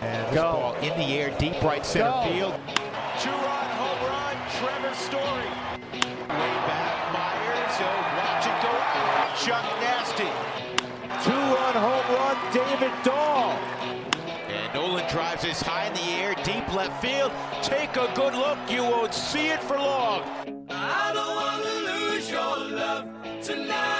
And this ball in the air, deep right center field. Two-run home run, Trevor Story. Way back, Myers. Watch it go out. Chuck Nasty. Two-run home run, David Dahl. And Nolan drives this high in the air, deep left field. Take a good look. You won't see it for long. I don't want to lose your love tonight.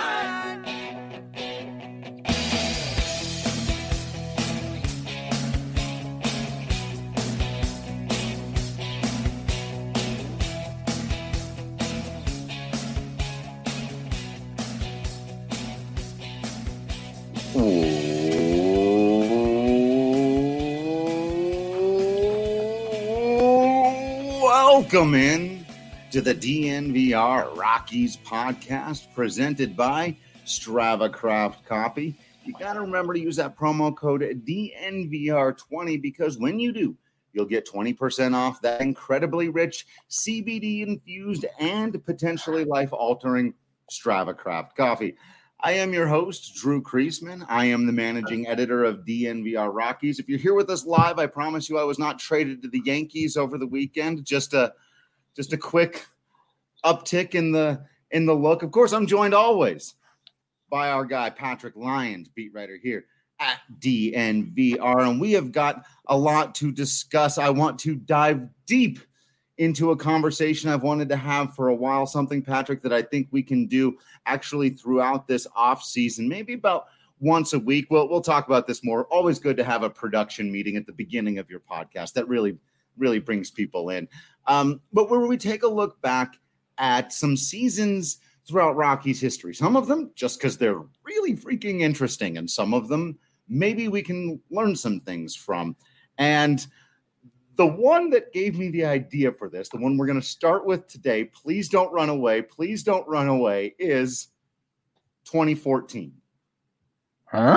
Welcome in to the DNVR Rockies podcast presented by Strava Craft Coffee. You got to remember to use that promo code DNVR20 because when you do, you'll get 20% off that incredibly rich CBD infused and potentially life-altering Strava Craft Coffee. I am your host, Drew Kreisman. I am the managing editor of DNVR Rockies. If you're here with us live, I promise you I was not traded to the Yankees over the weekend. Just a quick uptick in the look. Of course, I'm joined always by our guy, Patrick Lyons, beat writer here at DNVR. And we have got a lot to discuss. I want to dive deep into a conversation I've wanted to have for a while, something, Patrick, that I think we can do actually throughout this off season, maybe about once a week. We'll talk about this more. Always good to have a production meeting at the beginning of your podcast. That really brings people in. But where we take a look back at some seasons throughout Rockies history, some of them just because they're really freaking interesting, and some of them maybe we can learn some things from. And the one that gave me the idea for this, the one we're going to start with today, please don't run away, is 2014. Huh?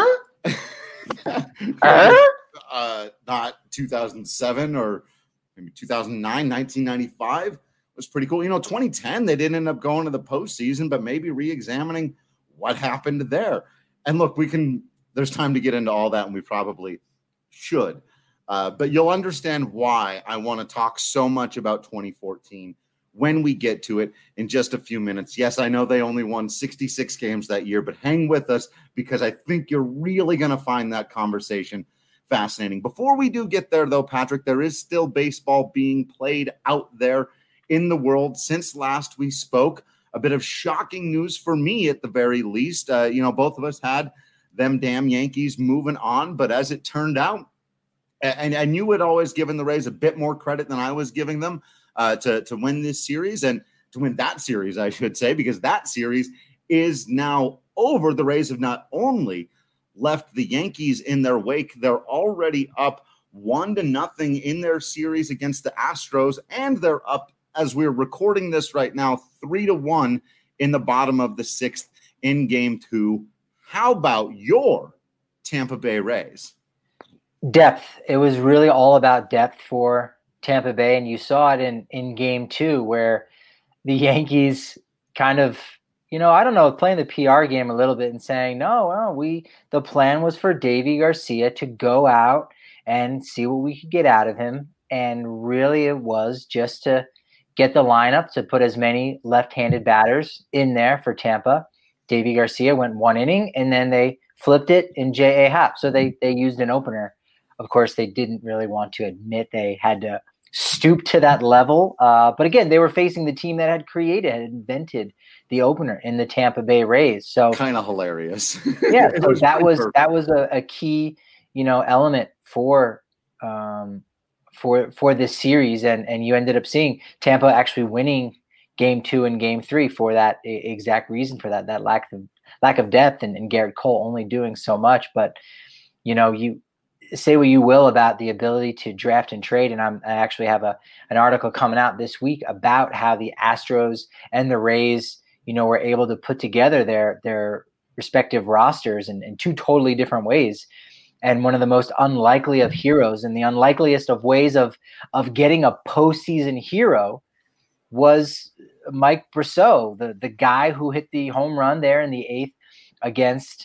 Not 2007 or maybe 2009, 1995 was pretty cool. 2010, they didn't end up going to the postseason, but maybe re-examining what happened there. And look, there's time to get into all that, and we probably should. But you'll understand why I want to talk so much about 2014 when we get to it in just a few minutes. Yes, I know they only won 66 games that year, but hang with us because I think you're really going to find that conversation fascinating. Before we do get there, though, Patrick, there is still baseball being played out there in the world since last we spoke. A bit of shocking news for me at the very least. Both of us had them damn Yankees moving on, but as it turned out, and you had always given the Rays a bit more credit than I was giving them to win this series and to win that series, I should say, because that series is now over. The Rays have not only left the Yankees in their wake, they're already up 1-0 in their series against the Astros, and they're up, as we're recording this right now, 3-1 in the bottom of the sixth in Game 2. How about your Tampa Bay Rays? Depth. It was really all about depth for Tampa Bay, and you saw it in Game 2 where the Yankees kind of, I don't know, playing the PR game a little bit and saying, the plan was for Deivi Garcia to go out and see what we could get out of him, and really it was just to get the lineup to put as many left-handed batters in there for Tampa. Deivi Garcia went one inning, and then they flipped it in J.A. Happ, so they used an opener. Of course, they didn't really want to admit they had to stoop to that level. But again, they were facing the team that had invented the opener in the Tampa Bay Rays. So kind of hilarious. Yeah, so that was a key, element for this series, and you ended up seeing Tampa actually winning Game 2 and Game 3 for that exact reason, for that lack of depth, and Garrett Cole only doing so much. But you say what you will about the ability to draft and trade, and I actually have an article coming out this week about how the Astros and the Rays, were able to put together their respective rosters in two totally different ways. And one of the most unlikely of heroes, and the unlikeliest of ways of getting a postseason hero, was Mike Brosseau, the guy who hit the home run there in the eighth against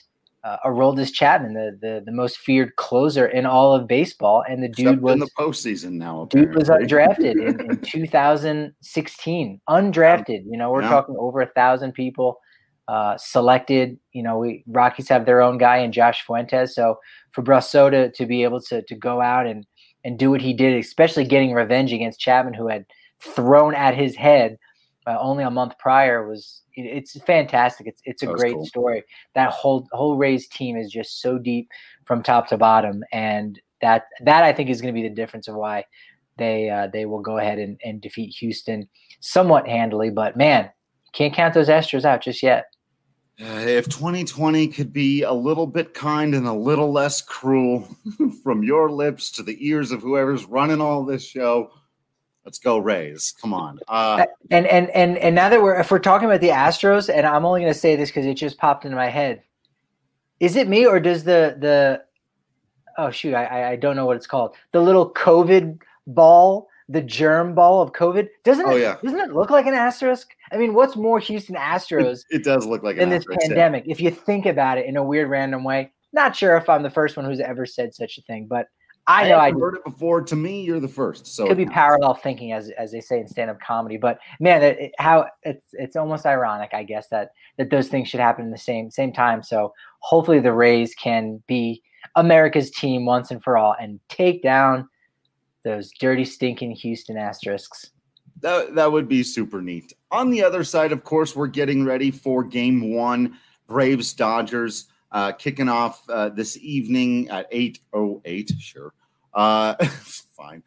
Aroldis Chapman, the most feared closer in all of baseball, and the dude Except was in the postseason now. Dude was Apparently. undrafted in 2016. Undrafted. We're talking over 1,000 people selected. We Rockies have their own guy in Josh Fuentes. So for Brasso to be able to go out and do what he did, especially getting revenge against Chapman, who had thrown at his head only a month prior, it's fantastic. It's a great story. That whole Rays team is just so deep from top to bottom, and that I think is going to be the difference of why they will go ahead and defeat Houston somewhat handily. But man, can't count those Astros out just yet. If 2020 could be a little bit kind and a little less cruel from your lips to the ears of whoever's running all this show, let's go Rays. Come on. And now that if we're talking about the Astros, and I'm only going to say this because it just popped into my head. Is it me or does the oh shoot, I don't know what it's called. The little COVID ball, the germ ball of COVID. Doesn't it look like an asterisk? I mean, what's more Houston Astros? It does look like in this pandemic. If you think about it in a weird random way. Not sure if I'm the first one who's ever said such a thing, but I know I've heard it before. To me, you're the first. So it could be parallel thinking, as they say in stand-up comedy. But man, it's almost ironic, I guess, that those things should happen in the same time. So hopefully the Rays can be America's team once and for all and take down those dirty, stinking Houston Asterisks. That would be super neat. On the other side, of course, we're getting ready for Game 1, Braves-Dodgers. Kicking off this evening at 8:08. Sure. Fine.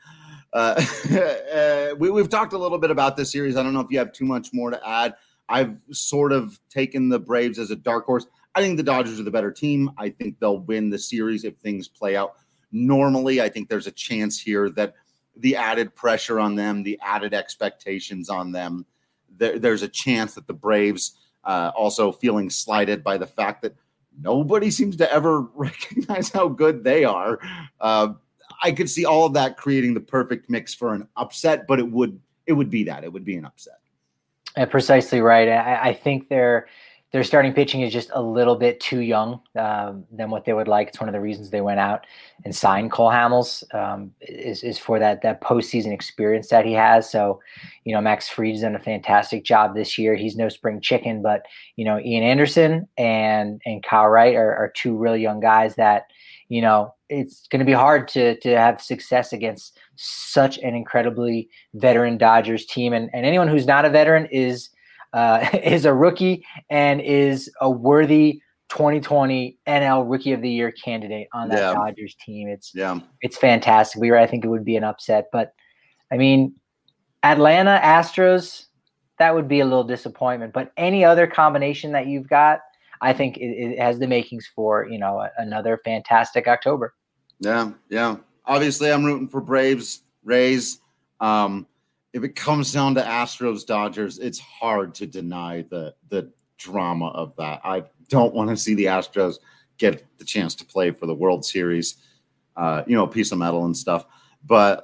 We've talked a little bit about this series. I don't know if you have too much more to add. I've sort of taken the Braves as a dark horse. I think the Dodgers are the better team. I think they'll win the series if things play out normally. I think there's a chance here that the added pressure on them, the added expectations on them, there's a chance that the Braves also feeling slighted by the fact that nobody seems to ever recognize how good they are. I could see all of that creating the perfect mix for an upset, but it would be that. It would be an upset. Precisely right. I think their starting pitching is just a little bit too young than what they would like. It's one of the reasons they went out and signed Cole Hamels is for that postseason experience that he has. So, Max Fried's done a fantastic job this year. He's no spring chicken, but Ian Anderson and Kyle Wright are two really young guys that it's going to be hard to have success against such an incredibly veteran Dodgers team. And anyone who's not a veteran is a rookie and is a worthy 2020 NL Rookie of the Year candidate on that Dodgers team. It's fantastic. I think it would be an upset, but I mean, Atlanta Astros, that would be a little disappointment. But any other combination that you've got, I think it has the makings for another fantastic October. Yeah. Obviously, I'm rooting for Braves, Rays. If it comes down to Astros, Dodgers, it's hard to deny the drama of that. I don't want to see the Astros get the chance to play for the World Series, piece of metal and stuff. But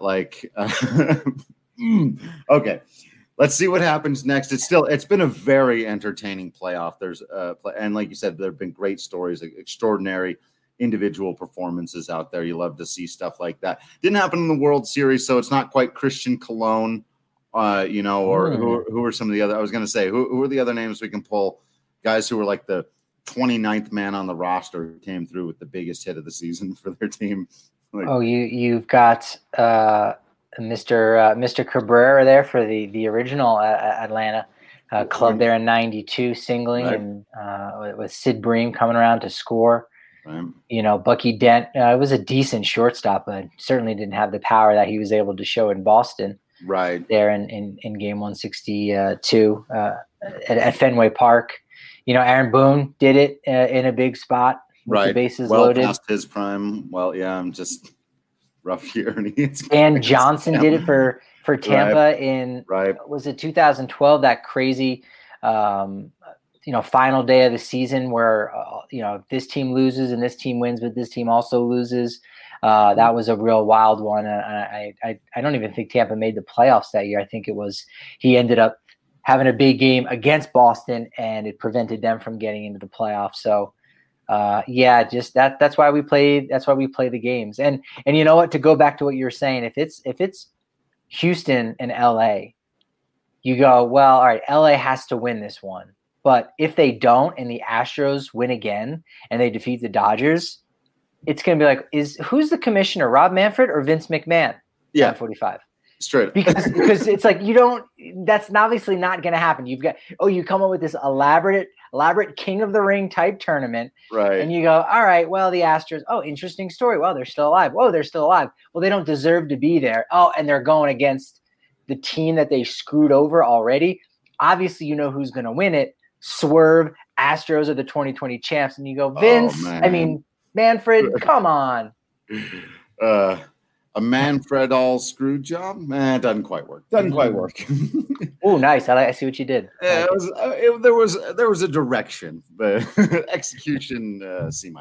okay, let's see what happens next. It's been a very entertaining playoff. And like you said, there have been great stories, extraordinary individual performances out there. You love to see stuff like that. Didn't happen in the World Series, so it's not quite Christian Colon. Or who are some of the other? I was going to say who are the other names we can pull? Guys who were like the 29th man on the roster who came through with the biggest hit of the season for their team. You've got Mr. Cabrera there for the original Atlanta club there in '92, singling, right. And with Sid Bream coming around to score. Right. Bucky Dent. It was a decent shortstop, but certainly didn't have the power that he was able to show in Boston. Right there in game 162 at Fenway Park. Aaron Boone did it in a big spot with the bases loaded. Past his prime. Well, yeah, I'm just rough year. Dan Johnson did it for Tampa in was it 2012? That crazy final day of the season where this team loses and this team wins, but this team also loses. That was a real wild one. I don't even think Tampa made the playoffs that year. I think he ended up having a big game against Boston, and it prevented them from getting into the playoffs. So Yeah, just that's why we play. That's why we play the games. And you know what? To go back to what you were saying, if it's Houston and LA, you go, well, all right, LA has to win this one. But if they don't, and the Astros win again, and they defeat the Dodgers, it's going to be like, who's the commissioner, Rob Manfred or Vince McMahon? Yeah, 45. Straight because it's like that's obviously not going to happen. You come up with this elaborate King of the Ring type tournament, right? And you go, all right, well, the Astros, interesting story. Well, they're still alive. Whoa, they're still alive. Well, they don't deserve to be there. Oh, and they're going against the team that they screwed over already. Obviously, you know who's going to win it. Swerve, Astros are the 2020 champs. And you go, Vince, Manfred, come on. A Manfred all screw job? It doesn't quite work. Oh, nice. I see what you did. Yeah, there was a direction, but execution C-.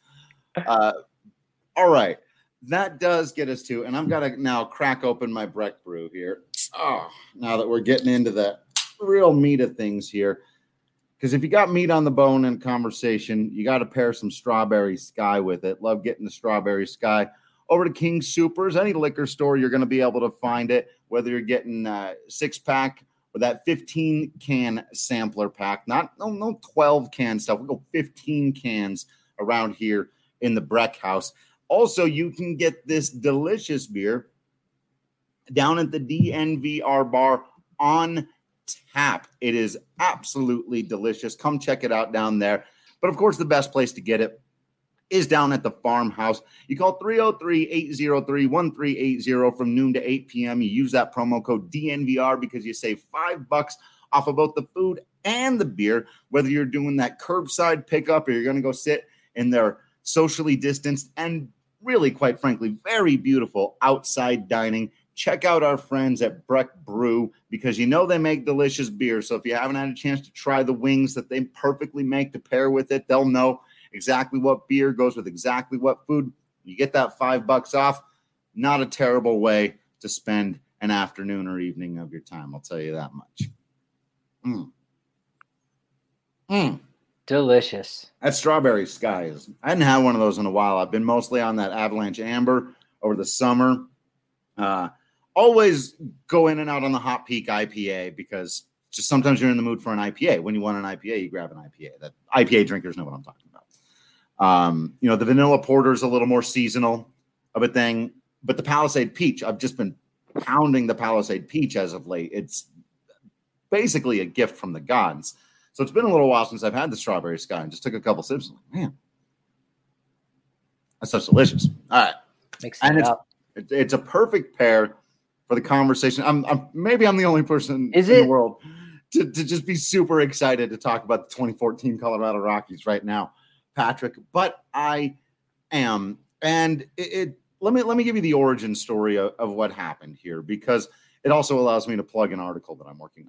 All right. That does get us to, and I've got to now crack open my Breck brew here. Oh, now that we're getting into the real meat of things here. Because if you got meat on the bone in conversation, you got to pair some Strawberry Sky with it. Love getting the Strawberry Sky. Over to King Soopers, any liquor store, you're going to be able to find it, whether you're getting a 6-pack or that 15-can sampler pack. No 12-can stuff. We'll go 15 cans around here in the Breck House. Also, you can get this delicious beer down at the DNVR bar on tap. It is absolutely delicious. Come check it out down there. But, of course, the best place to get it is down at the farmhouse. You call 303-803-1380 from noon to 8 p.m. You use that promo code DNVR because you save $5 off of both the food and the beer, whether you're doing that curbside pickup or you're going to go sit in their socially distanced and really, quite frankly, very beautiful outside dining. Check out our friends at Breck Brew because you know they make delicious beer. So if you haven't had a chance to try the wings that they perfectly make to pair with it, they'll know exactly what beer goes with exactly what food. You get that $5 off. Not a terrible way to spend an afternoon or evening of your time. I'll tell you that much. Delicious. That Strawberry Sky is. I hadn't had one of those in a while. I've been mostly on that Avalanche Amber over the summer. Always go in and out on the Hot Peak IPA because just sometimes you're in the mood for an IPA. When you want an IPA, you grab an IPA. That IPA drinkers know what I'm talking about. The vanilla porter is a little more seasonal of a thing, but the Palisade Peach, I've just been pounding the Palisade Peach as of late. It's basically a gift from the gods. So it's been a little while since I've had the Strawberry Sky and just took a couple sips. Like, man, that's such delicious. All right. It's a perfect pair for the conversation. I'm the only person in the world to just be super excited to talk about the 2014 Colorado Rockies right now, Patrick, but I am. And let me give you the origin story of what happened here, because it also allows me to plug an article that I'm working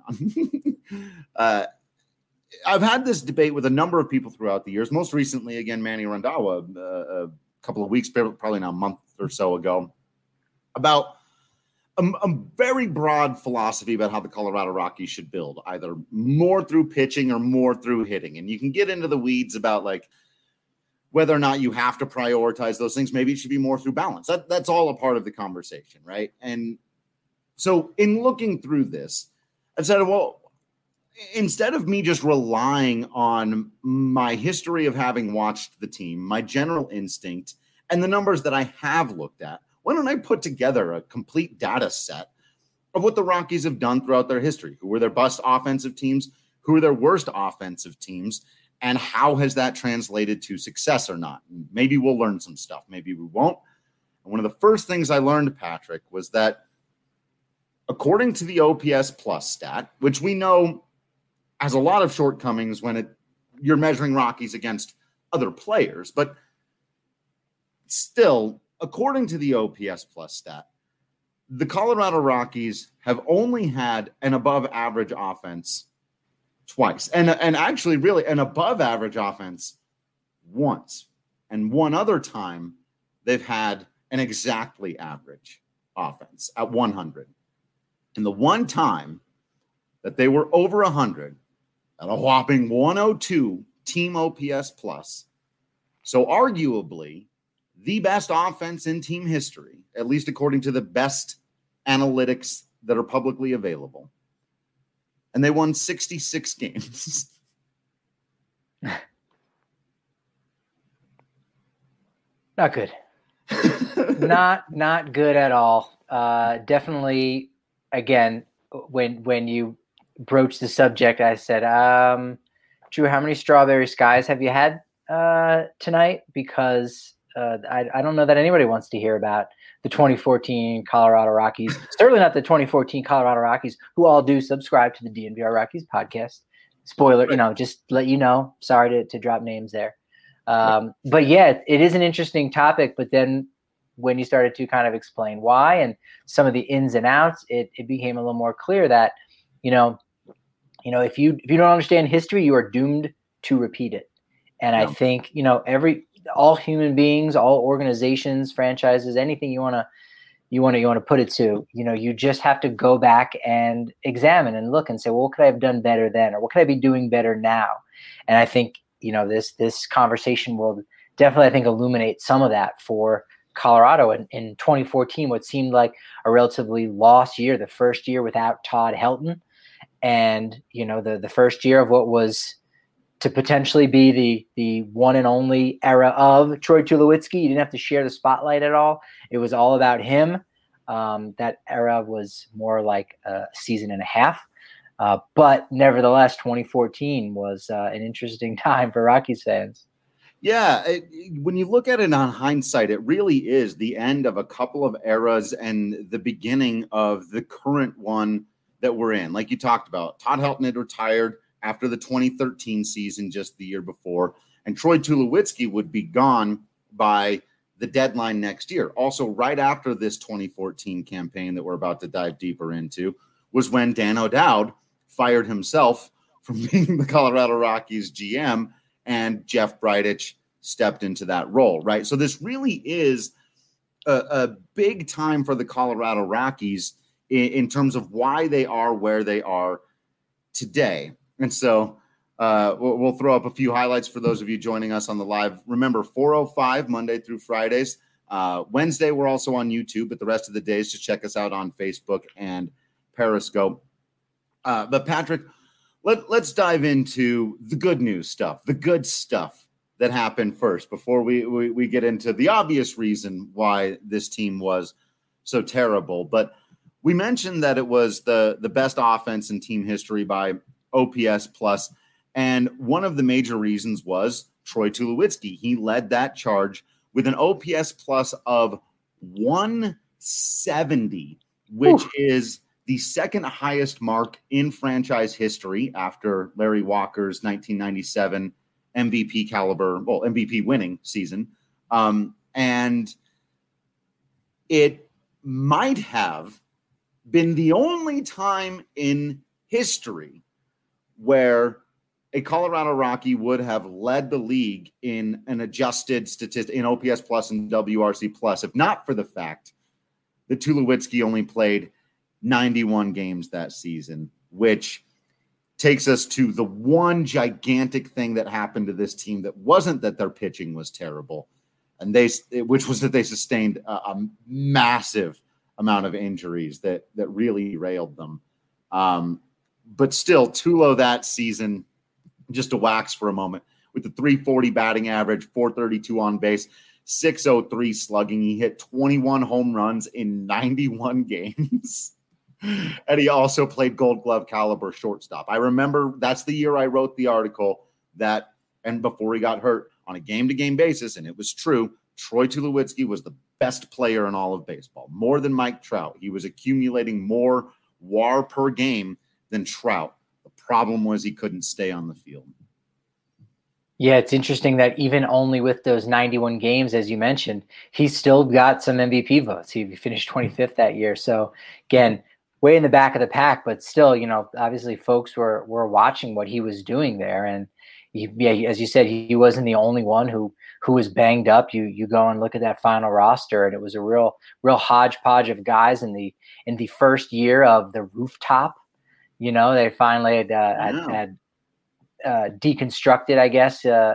on. I've had this debate with a number of people throughout the years, most recently, again, Manny Randhawa, a couple of weeks, probably now a month or so ago, about a very broad philosophy about how the Colorado Rockies should build, either more through pitching or more through hitting. And you can get into the weeds about like whether or not you have to prioritize those things. Maybe it should be more through balance. That's all a part of the conversation, right? And so in looking through this, I said, well, instead of me just relying on my history of having watched the team, my general instinct, and the numbers that I have looked at, why don't I put together a complete data set of what the Rockies have done throughout their history? Who were their best offensive teams? Who are their worst offensive teams? And how has that translated to success or not? Maybe we'll learn some stuff. Maybe we won't. And one of the first things I learned, Patrick, was that according to the OPS plus stat, which we know has a lot of shortcomings when you're measuring Rockies against other players, but still, according to the OPS plus stat, the Colorado Rockies have only had an above average offense twice, and actually really an above average offense once. And one other time they've had an exactly average offense at 100. And the one time that they were over 100 at a whopping 102 team OPS plus So arguably the best offense in team history, at least according to the best analytics that are publicly available. And they won 66 games. Not good. Not good at all. Definitely, again, when you broached the subject, I said, Drew, how many strawberry skies have you had tonight? Because I don't know that anybody wants to hear about the 2014 Colorado Rockies. Certainly not the 2014 Colorado Rockies, who all do subscribe to the DNVR Rockies podcast. Spoiler, just let you know. Sorry to drop names there. But yeah, it is an interesting topic. But then when you started to kind of explain why and some of the ins and outs, it became a little more clear that, if you don't understand history, you are doomed to repeat it. And I think, all human beings, all organizations, franchises, anything you want to put it to, you just have to go back and examine and look and say, well, what could I have done better then? Or what could I be doing better now? And I think, this conversation will definitely, I think, illuminate some of that for Colorado in 2014, what seemed like a relatively lost year, the first year without Todd Helton, and, the first year of what was to potentially be the one and only era of Troy Tulowitzki. You didn't have to share the spotlight at all. It was all about him. That era was more like a season and a half. But nevertheless, 2014 was an interesting time for Rockies fans. Yeah, when you look at it on hindsight, it really is the end of a couple of eras and the beginning of the current one that we're in. Like you talked about, Todd Helton had retired after the 2013 season, just the year before, and Troy Tulowitzki would be gone by the deadline next year. Also, right after this 2014 campaign that we're about to dive deeper into was when Dan O'Dowd fired himself from being the Colorado Rockies GM, and Jeff Bridich stepped into that role, right? So this really is a big time for the Colorado Rockies in terms of why they are where they are today. And so we'll throw up a few highlights for those of you joining us on the live. Remember, 4:05 Monday through Fridays. Wednesday, we're also on YouTube, but the rest of the days, just check us out on Facebook and Periscope. But Patrick, let's dive into the good news stuff, the good stuff that happened first before we get into the obvious reason why this team was so terrible. But we mentioned that it was the best offense in team history by OPS plus, and one of the major reasons was Troy Tulowitzki. He led that charge with an OPS plus of 170, which is the second highest mark in franchise history after Larry Walker's 1997 MVP caliber, MVP winning season. And it might have been the only time in history where a Colorado Rocky would have led the league in an adjusted statistic in OPS plus and WRC plus, if not for the fact that Tulowitzki only played 91 games that season, which takes us to the one gigantic thing that happened to this team that wasn't that their pitching was terrible, and which was that they sustained a massive amount of injuries that really derailed them. But still, Tulo that season, just to wax for a moment, with the 340 batting average, 432 on base, 603 slugging. He hit 21 home runs in 91 games. And he also played Gold Glove caliber shortstop. I remember that's the year I wrote the article that, and before he got hurt, on a game-to-game basis, and it was true, Troy Tulowitzki was the best player in all of baseball, more than Mike Trout. He was accumulating more WAR per game than Trout. The problem was he couldn't stay on the field. Yeah, it's interesting that even only with those 91 games, as you mentioned, he still got some MVP votes. He finished 25th that year. So again, way in the back of the pack, but still, obviously folks were watching what he was doing there. And as you said, he wasn't the only one who was banged up. You go and look at that final roster, and it was a real hodgepodge of guys in the first year of the rooftop. They finally had deconstructed, I guess,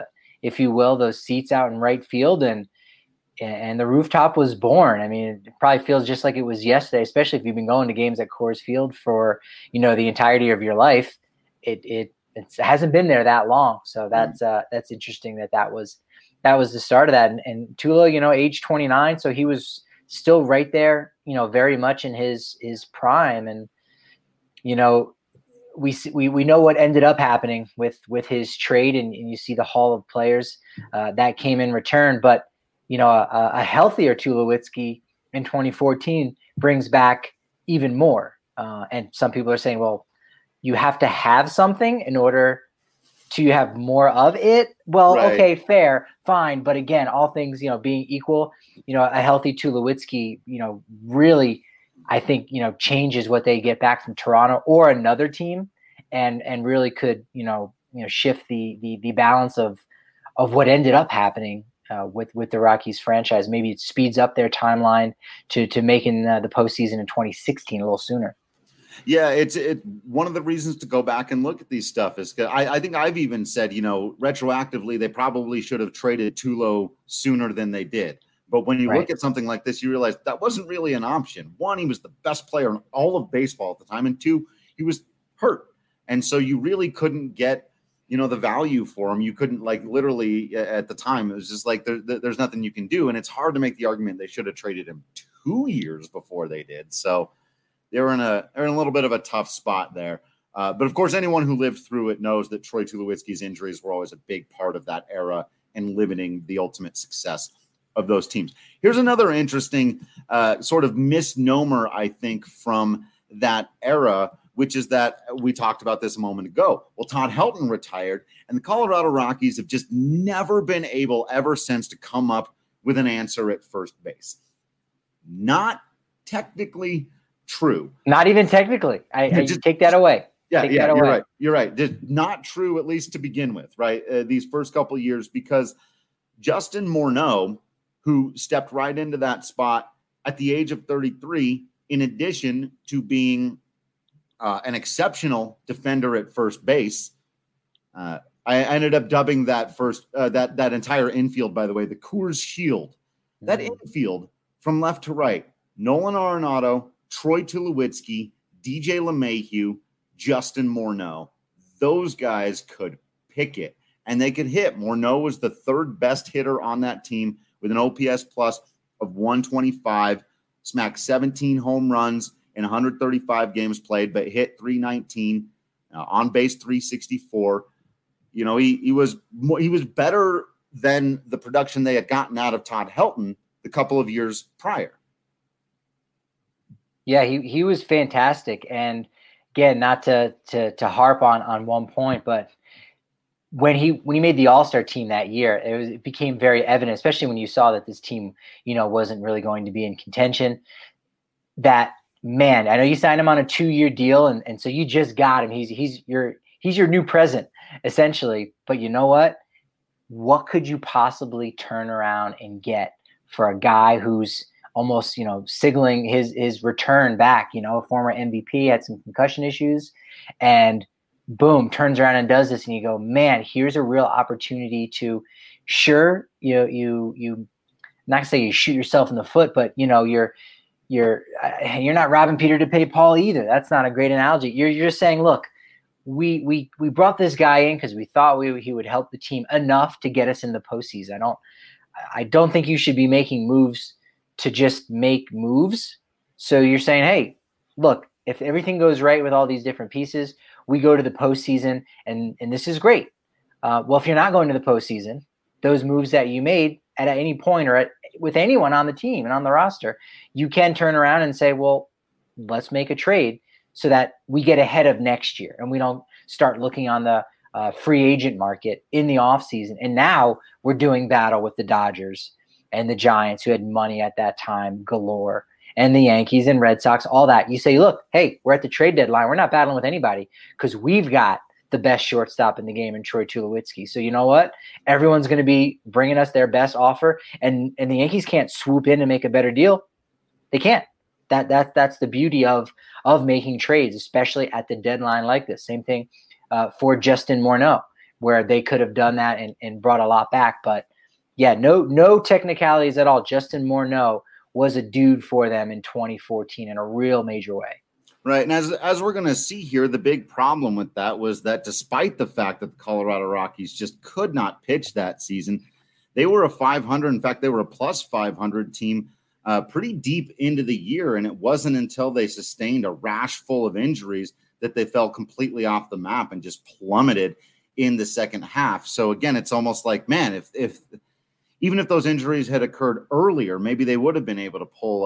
if you will, those seats out in right field, and the rooftop was born. I mean, it probably feels just like it was yesterday, especially if you've been going to games at Coors Field for, the entirety of your life. It hasn't been there that long. So that's interesting that was the start of that. And Tulo, age 29. So he was still right there, very much in his prime. And, we know what ended up happening with his trade, and you see the Hall of Players that came in return. But, a healthier Tulowitzki in 2014 brings back even more. And some people are saying, well, you have to have something in order to have more of it. Well, Right. Okay, fair, fine. But again, all things, being equal, a healthy Tulowitzki, really, I think, changes what they get back from Toronto or another team, and really could, shift the balance of what ended up happening with the Rockies franchise. Maybe it speeds up their timeline to making the postseason in 2016 a little sooner. Yeah, it's one of the reasons to go back and look at these stuff is I think I've even said, retroactively, they probably should have traded Tulo sooner than they did. But when you Right. look at something like this, you realize that wasn't really an option. One, he was the best player in all of baseball at the time. And two, he was hurt. And so you really couldn't get, the value for him. You couldn't, literally at the time, it was just like there's nothing you can do. And it's hard to make the argument they should have traded him 2 years before they did. So they're in a little bit of a tough spot there. But of course, anyone who lived through it knows that Troy Tulowitzki's injuries were always a big part of that era and limiting the ultimate success of those teams. Here's another interesting sort of misnomer, I think, from that era, which is that we talked about this a moment ago. Well, Todd Helton retired, and the Colorado Rockies have just never been able ever since to come up with an answer at first base. Not technically true. Not even technically. I take that away. Yeah, Take that you're away. right. You're right. Just not true, at least to begin with, right? These first couple of years, because Justin Morneau, who stepped right into that spot at the age of 33, in addition to being an exceptional defender at first base, I ended up dubbing that that entire infield, by the way, the Coors Shield. That infield from left to right: Nolan Arenado, Troy Tulowitzki, DJ LeMahieu, Justin Morneau. Those guys could pick it, and they could hit. Morneau was the third best hitter on that team with an OPS plus of 125, smacked 17 home runs in 135 games played, but hit 319, on base 364. He was better than the production they had gotten out of Todd Helton the couple of years prior. Yeah, he was fantastic. And again, not to harp on one point, but when he made the All-Star team that year, it became very evident, especially when you saw that this team, wasn't really going to be in contention, that, man, I know you signed him on a 2-year deal, and so you just got him. He's your new present, essentially. But you know what? What could you possibly turn around and get for a guy who's almost, signaling his return back, a former MVP, had some concussion issues, and boom, turns around and does this, and you go, man, here's a real opportunity to, sure, you not to say you shoot yourself in the foot, but you're not robbing Peter to pay Paul either. That's not a great analogy. You're just saying, look, we brought this guy in because we thought he would help the team enough to get us in the postseason. I don't think you should be making moves to just make moves. So you're saying, hey, look, if everything goes right with all these different pieces, we go to the postseason, and this is great. Well, if you're not going to the postseason, those moves that you made at any point or with anyone on the team and on the roster, you can turn around and say, well, let's make a trade so that we get ahead of next year and we don't start looking on the free agent market in the offseason. And now we're doing battle with the Dodgers and the Giants, who had money at that time galore, and the Yankees and Red Sox, all that. You say, look, hey, we're at the trade deadline. We're not battling with anybody because we've got the best shortstop in the game in Troy Tulowitzki. So you know what? Everyone's going to be bringing us their best offer, and the Yankees can't swoop in and make a better deal. They can't. That's the beauty of making trades, especially at the deadline like this. Same thing for Justin Morneau. where they could have done that and brought a lot back. But yeah, no technicalities at all. Justin Morneau was a dude for them in 2014 in a real major way. Right. And as we're going to see here, the big problem with that was that despite the fact that the Colorado Rockies just could not pitch that season, they were a 500. In fact, they were a plus 500 team pretty deep into the year. And it wasn't until they sustained a rash full of injuries that they fell completely off the map and just plummeted in the second half. So again, it's almost like, man, if even if those injuries had occurred earlier, maybe they would have been able to pull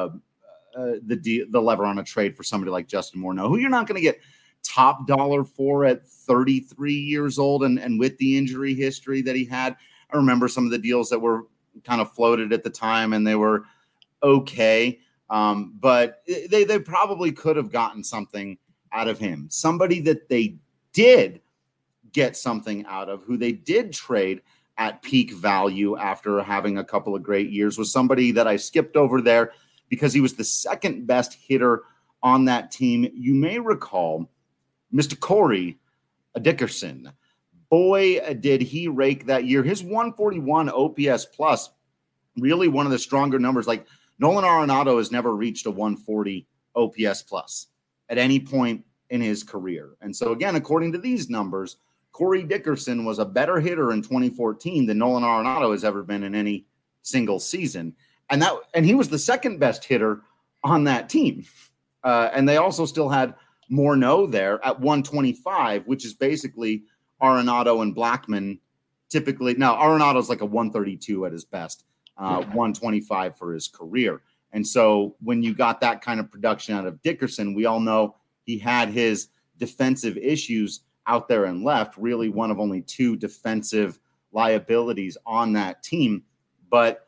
the lever on a trade for somebody like Justin Morneau, who you're not going to get top dollar for at 33 years old and with the injury history that he had. I remember some of the deals that were kind of floated at the time, and they were okay. But they probably could have gotten something out of him. Somebody that they did get something out of, who they did trade at peak value after having a couple of great years, was somebody that I skipped over there because he was the second best hitter on that team. You may recall Mr. Corey Dickerson. Boy, did he rake that year. His 141 OPS plus, really one of the stronger numbers. Like Nolan Arenado has never reached a 140 OPS plus at any point in his career. And so again, according to these numbers, Corey Dickerson was a better hitter in 2014 than Nolan Arenado has ever been in any single season. And he was the second best hitter on that team. And they also still had Morneau there at 125, which is basically Arenado and Blackmon typically. Now, Arenado's like a 132 at his best, 125 for his career. And so when you got that kind of production out of Dickerson, we all know he had his defensive issues out there and left, really one of only two defensive liabilities on that team. But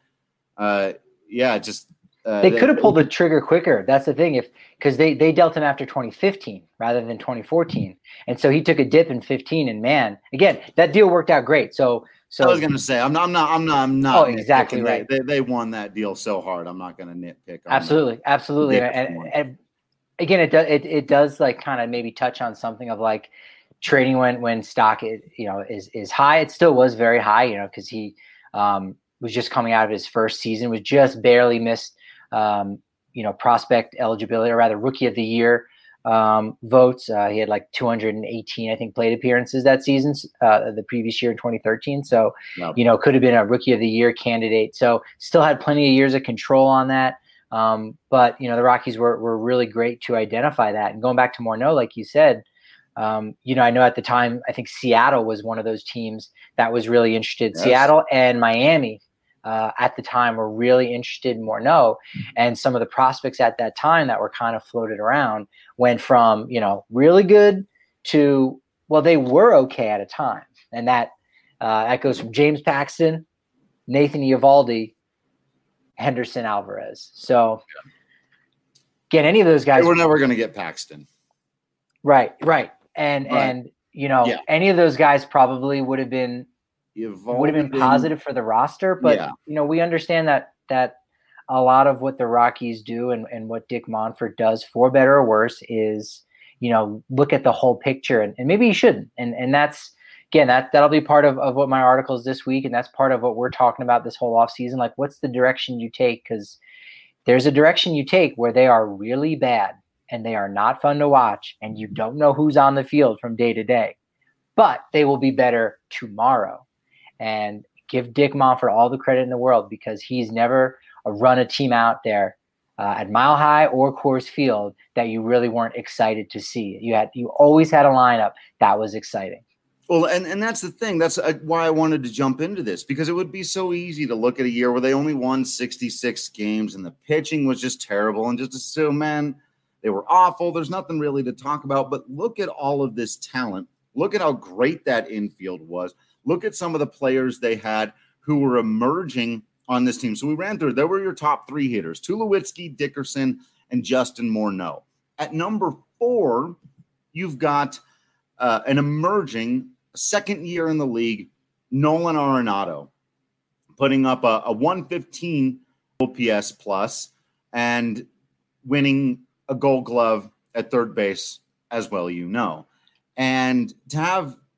they could have pulled the trigger quicker. That's the thing, because they dealt him after 2015 rather than 2014, and so he took a dip in 15. And man, again, that deal worked out great. So I was going to say, I'm not. Oh, exactly right. They won that deal so hard. I'm not going to nitpick. Absolutely. And again, it does like kind of maybe touch on something of like trading when stock is high. It still was very high, because he was just coming out of his first season, was just barely missed prospect eligibility, or rather rookie of the year votes. He had like 218, I think, plate appearances that season, the previous year in 2013. So, could have been a rookie of the year candidate. So still had plenty of years of control on that. But, the Rockies were really great to identify that. And going back to Morneau, like you said, I know at the time, I think Seattle was one of those teams that was really interested. Yes. Seattle and Miami at the time were really interested in Morneau, and some of the prospects at that time that were kind of floated around went from, really good to, well, they were okay at a time. And that goes from James Paxton, Nathan Eovaldi, Henderson Alvarez. So again, any of those guys, we're never going to get Paxton. Right. And any of those guys probably would have been positive for the roster, but we understand that a lot of what the Rockies do and what Dick Monfort does, for better or worse, is look at the whole picture, and maybe you shouldn't, and that's, again, that'll be part of what my article is this week, and that's part of what we're talking about this whole offseason. Like, what's the direction you take? Because there's a direction you take where they are really bad and they are not fun to watch, and you don't know who's on the field from day to day, but they will be better tomorrow. And give Dick Monfort all the credit in the world, because he's never run a team out there at Mile High or Coors Field that you really weren't excited to see. You always had a lineup that was exciting. Well, and that's the thing. That's why I wanted to jump into this, because it would be so easy to look at a year where they only won 66 games and the pitching was just terrible and just assume, man, they were awful. There's nothing really to talk about. But look at all of this talent. Look at how great that infield was. Look at some of the players they had who were emerging on this team. So we ran through. There were your top three hitters: Tulowitzki, Dickerson, and Justin Morneau. At number 4, you've got an emerging second year in the league, Nolan Arenado, putting up a 115 OPS plus and winning a Gold Glove at third base as well, And to have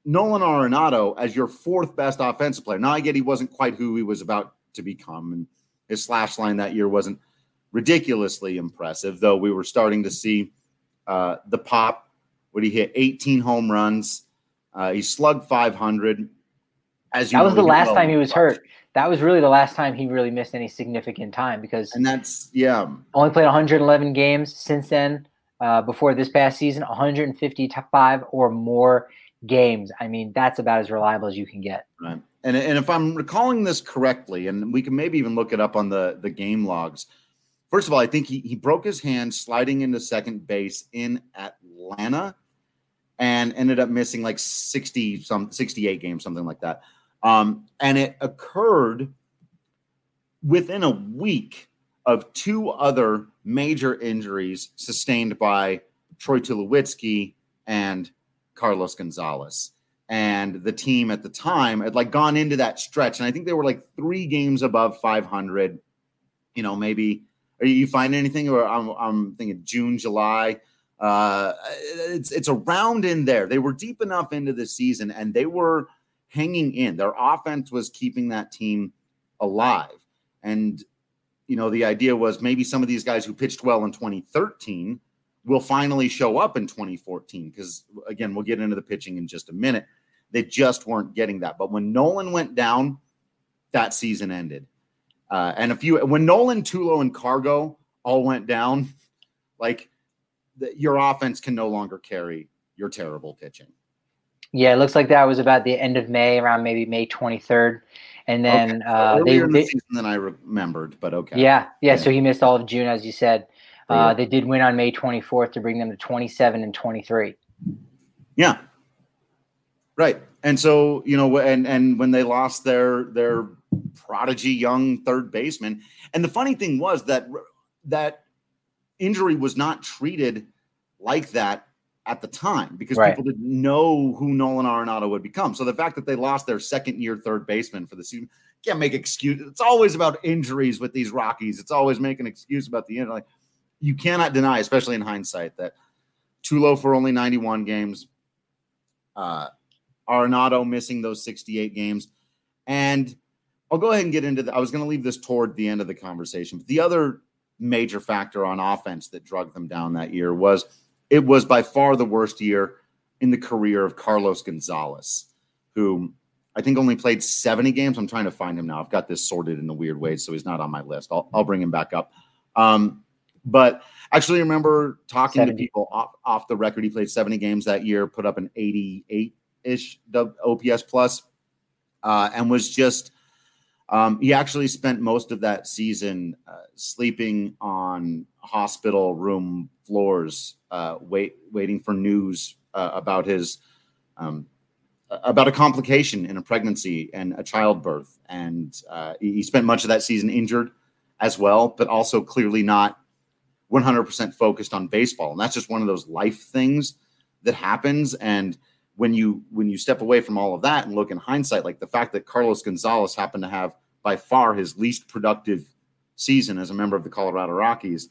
Nolan Arenado as your fourth best offensive player. Now I get he wasn't quite who he was about to become, and his slash line that year wasn't ridiculously impressive, though we were starting to see the pop when he hit 18 home runs. He slugged 500. That was the last time he was hurt. That was really the last time he really missed any significant time because only played 111 games since then. Before this past season, 155 or more games. I mean, that's about as reliable as you can get. Right. And if I'm recalling this correctly, and we can maybe even look it up on the game logs. First of all, I think he broke his hand sliding into second base in Atlanta and ended up missing like 68 games, something like that. And it occurred within a week of two other major injuries sustained by Troy Tulowitzki and Carlos Gonzalez. And the team at the time had like gone into that stretch. And I think they were like 3 games above 500, maybe. Are you finding anything? Or I'm thinking June, July. It's around in there. They were deep enough into the season and they were hanging in. Their offense was keeping that team alive. And, the idea was maybe some of these guys who pitched well in 2013 will finally show up in 2014. Because, again, we'll get into the pitching in just a minute. They just weren't getting that. But when Nolan went down, that season ended. When Nolan, Tulo, and Cargo all went down, your offense can no longer carry your terrible pitching. Yeah, it looks like that was about the end of May, around maybe May 23rd. And then earlier in the season than I remembered, but okay. Yeah. So he missed all of June, as you said. They did win on May 24th to bring them to 27-23. Yeah. Right. And so, and when they lost their prodigy young third baseman, and the funny thing was that injury was not treated like that at the time because people didn't know who Nolan Arenado would become. So the fact that they lost their second-year third baseman for the season, can't make excuses. It's always about injuries with these Rockies. It's always making an excuse about the injury. You cannot deny, especially in hindsight, that Tulo for only 91 games, Arenado missing those 68 games. And I'll go ahead and get into I was going to leave this toward the end of the conversation. But the other major factor on offense that drug them down that year was it was by far the worst year in the career of Carlos Gonzalez, who I think only played 70 games. I'm trying to find him now. I've got this sorted in a weird way, so he's not on my list. I'll bring him back up. But actually remember talking 70. To people off the record. He played 70 games that year, put up an 88-ish OPS plus, and was just he actually spent most of that season sleeping on hospital room floors, waiting for news about his about a complication in a pregnancy and a childbirth. And he spent much of that season injured as well, but also clearly not 100% focused on baseball. And that's just one of those life things that happens. And when you step away from all of that and look in hindsight, like the fact that Carlos Gonzalez happened to have by far his least productive season as a member of the Colorado Rockies,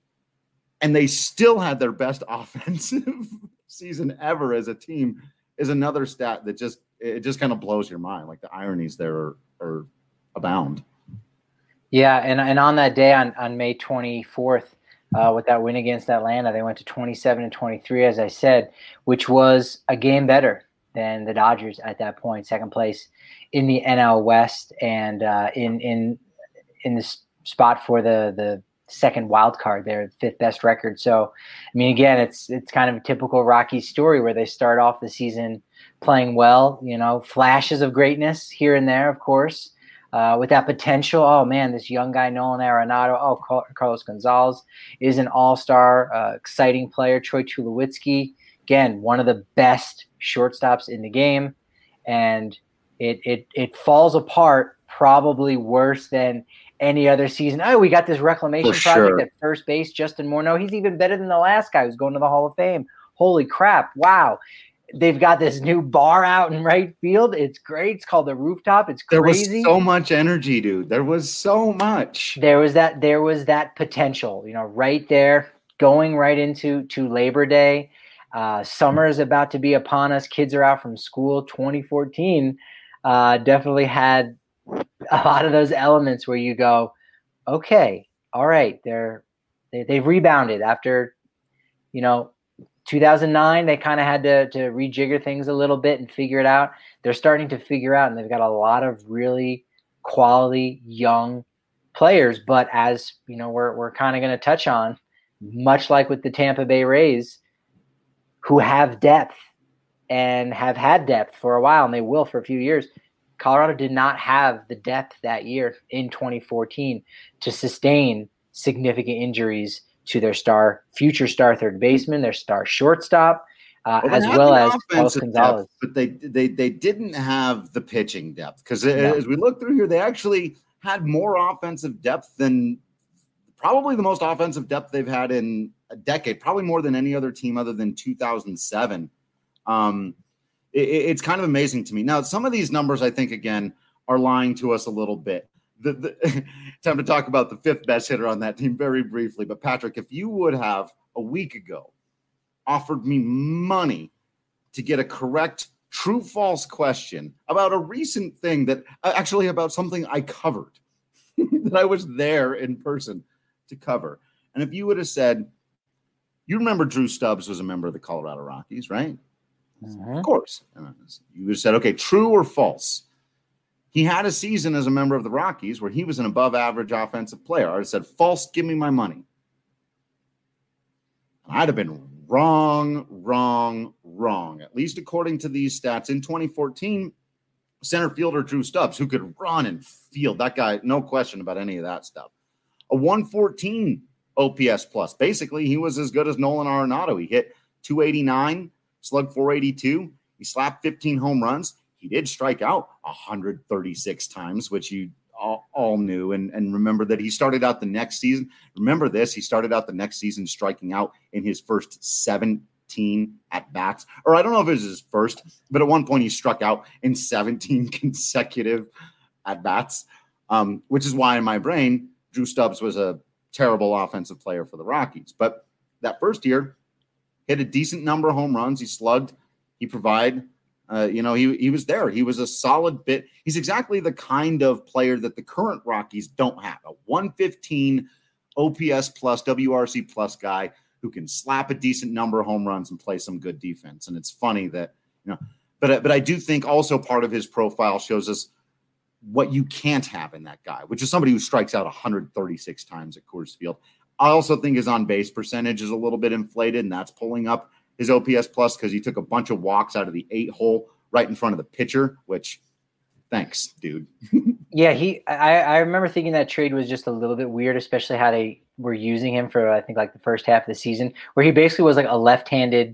and they still had their best offensive season ever as a team, is another stat that just kind of blows your mind. Like the ironies there are abound. Yeah, and on that day on May 24th, with that win against Atlanta, they went to 27-23, as I said, which was a game better than the Dodgers at that point, second place in the NL West, and in the spot for the second wild card there, fifth best record. So, I mean, again, it's kind of a typical Rockies story where they start off the season playing well, flashes of greatness here and there, of course, with that potential. Oh man, this young guy, Nolan Arenado. Oh, Carlos Gonzalez is an all-star, exciting player. Troy Tulowitzki, again, one of the best shortstops in the game, and it falls apart probably worse than any other season. Oh, we got this reclamation project at first base, Justin Morneau. He's even better than the last guy who's going to the Hall of Fame. Holy crap. Wow. They've got this new bar out in right field. It's great. It's called the Rooftop. It's crazy. There was so much energy, dude. There was so much. There was that potential, right there, going right into Labor Day. Summer is about to be upon us. Kids are out from school. 2014 definitely had a lot of those elements where you go, okay, all right, they've rebounded after, 2009. They kind of had to rejigger things a little bit and figure it out. They're starting to figure out, and they've got a lot of really quality young players. But as we're kind of going to touch on, much like with the Tampa Bay Rays, who have depth and have had depth for a while, and they will for a few years. Colorado did not have the depth that year in 2014 to sustain significant injuries to their future star third baseman, their star shortstop, as well as Carlos Gonzalez. But they didn't have the pitching depth because as we look through here, they actually had more offensive depth than probably the most offensive depth they've had in a decade, probably more than any other team other than 2007. It's kind of amazing to me. Now, some of these numbers, I think, again, are lying to us a little bit. Time to talk about the fifth best hitter on that team very briefly. But, Patrick, if you would have a week ago offered me money to get a correct true-false question about a recent thing that actually about something I covered, that I was there in person to cover. And if you would have said, you remember Drew Stubbs was a member of the Colorado Rockies, right? Mm-hmm. Of course. You would have said, okay, true or false? He had a season as a member of the Rockies where he was an above-average offensive player. I would have said, false, give me my money. I'd have been wrong. At least according to these stats. In 2014, center fielder Drew Stubbs, who could run and field. That guy, no question about any of that stuff. A 114 OPS plus. Basically, he was as good as Nolan Arenado. He hit 289, slugged 482. He slapped 15 home runs. He did strike out 136 times, which you all knew. And remember that he started out the next season. Remember this, he started out the next season striking out in his first 17 at-bats. Or I don't know if it was his first, but at one point he struck out in 17 consecutive at-bats, which is why in my brain, Drew Stubbs was a terrible offensive player for the Rockies. But that first year, hit a decent number of home runs. He slugged. He provided. He was there. He was a solid bit. He's exactly the kind of player that the current Rockies don't have. A 115 OPS plus, WRC plus guy who can slap a decent number of home runs and play some good defense. And it's funny that, but I do think also part of his profile shows us what you can't have in that guy, which is somebody who strikes out 136 times at Coors Field. I also think his on-base percentage is a little bit inflated, and that's pulling up his OPS plus because he took a bunch of walks out of the 8-hole right in front of the pitcher, which thanks, dude. Yeah, I remember thinking that trade was just a little bit weird, especially how they were using him for, I think, like the first half of the season, where he basically was like a left-handed,